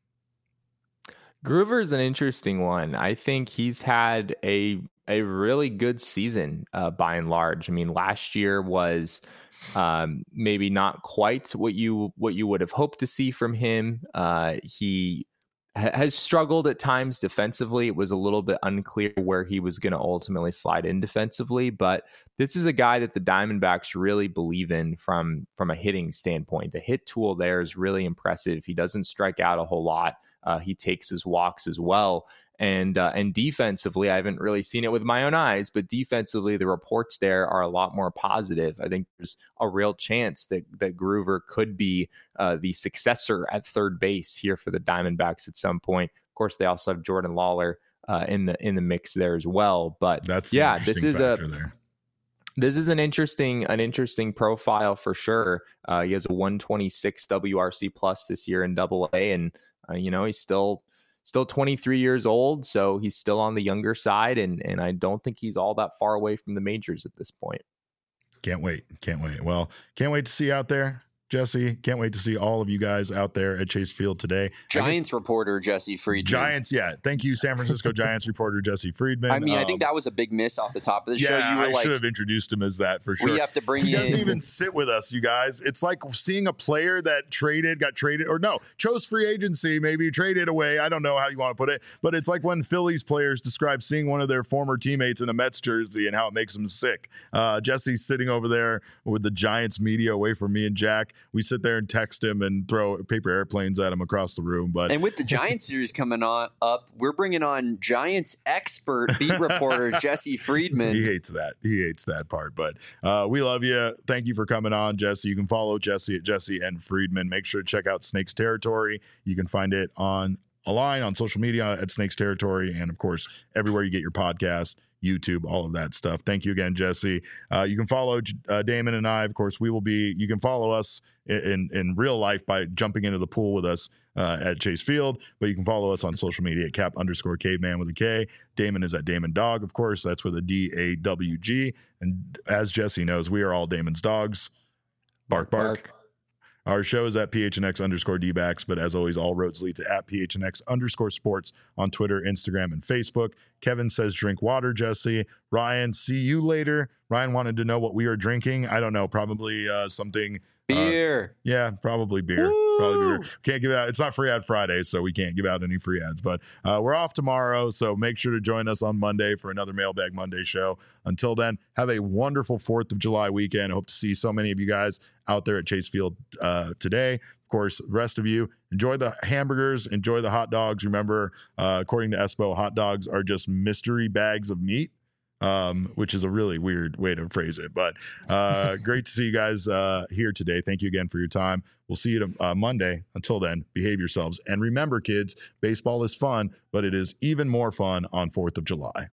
Groover is an interesting one. I think he's had a a really good season uh, by and large. I mean, last year was um, maybe not quite what you what you would have hoped to see from him. Uh, he ha- has struggled at times defensively. It was a little bit unclear where he was going to ultimately slide in defensively, but this is a guy that the Diamondbacks really believe in from from a hitting standpoint. The hit tool there is really impressive. He doesn't strike out a whole lot. Uh, he takes his walks as well. And uh, and defensively, I haven't really seen it with my own eyes, but defensively, the reports there are a lot more positive. I think there's a real chance that that Groover could be uh, the successor at third base here for the Diamondbacks at some point. Of course, they also have Jordan Lawler uh, in the in the mix there as well. But that's yeah, this is a there. This is an interesting an interesting profile for sure. Uh, he has a one twenty-six W R C plus this year in Double A, and uh, you know he's still. Still twenty-three years old, so he's still on the younger side, and and I don't think he's all that far away from the majors at this point. Can't wait. Can't wait. Well, can't wait to see you out there, Jesse. Can't wait to see all of you guys out there at Chase Field today. Giants reporter Jesse Friedman. Giants, yeah. Thank you, San Francisco Giants reporter Jesse Friedman. I mean, um, I think that was a big miss off the top of the yeah, show. You were I like, should have introduced him as that for sure. We have to bring he in. doesn't even sit with us, you guys. It's like seeing a player that traded, got traded, or no, chose free agency, maybe traded away. I don't know how you want to put it, but it's like when Phillies players describe seeing one of their former teammates in a Mets jersey and how it makes them sick. Uh, Jesse's sitting over there with the Giants media away from me and Jack. We sit there and text him and throw paper airplanes at him across the room. But and with the Giants series coming on up, we're bringing on Giants expert beat reporter Jesse Friedman. He hates that. He hates that part. But uh, we love you. Thank you for coming on, Jesse. You can follow Jesse at Jesse and Friedman. Make sure to check out Snakes Territory. You can find it on a line on social media at Snakes Territory, and of course everywhere you get your podcast. YouTube, all of that stuff. Thank you again, Jesse. Uh, you can follow uh, Damon and I. Of course, we will be, you can follow us in, in real life by jumping into the pool with us uh, at Chase Field, but you can follow us on social media at cap underscore caveman with a K. Damon is at Damon Dog, of course. That's with a D A W G. And as Jesse knows, we are all Damon's dogs. Bark, bark. bark. Our show is at P H N X underscore D-backs, but as always, all roads lead to at P H N X underscore sports on Twitter, Instagram, and Facebook. Kevin says, drink water, Jesse. Ryan, see you later. Ryan wanted to know what we are drinking. I don't know, probably uh, something. Beer. Uh, yeah, probably beer. Woo! Probably beer. Can't give out. It's not free ad Friday, so we can't give out any free ads. But uh, we're off tomorrow, so make sure to join us on Monday for another Mailbag Monday show. Until then, have a wonderful Fourth of July weekend. I hope to see so many of you guys out there at Chase Field uh, today. Of course, the rest of you, enjoy the hamburgers, enjoy the hot dogs. Remember, uh, according to Espo, hot dogs are just mystery bags of meat. Um, which is a really weird way to phrase it, but uh, great to see you guys uh, here today. Thank you again for your time. We'll see you to, uh, Monday. Until then, behave yourselves. And remember, kids, baseball is fun, but it is even more fun on Fourth of July.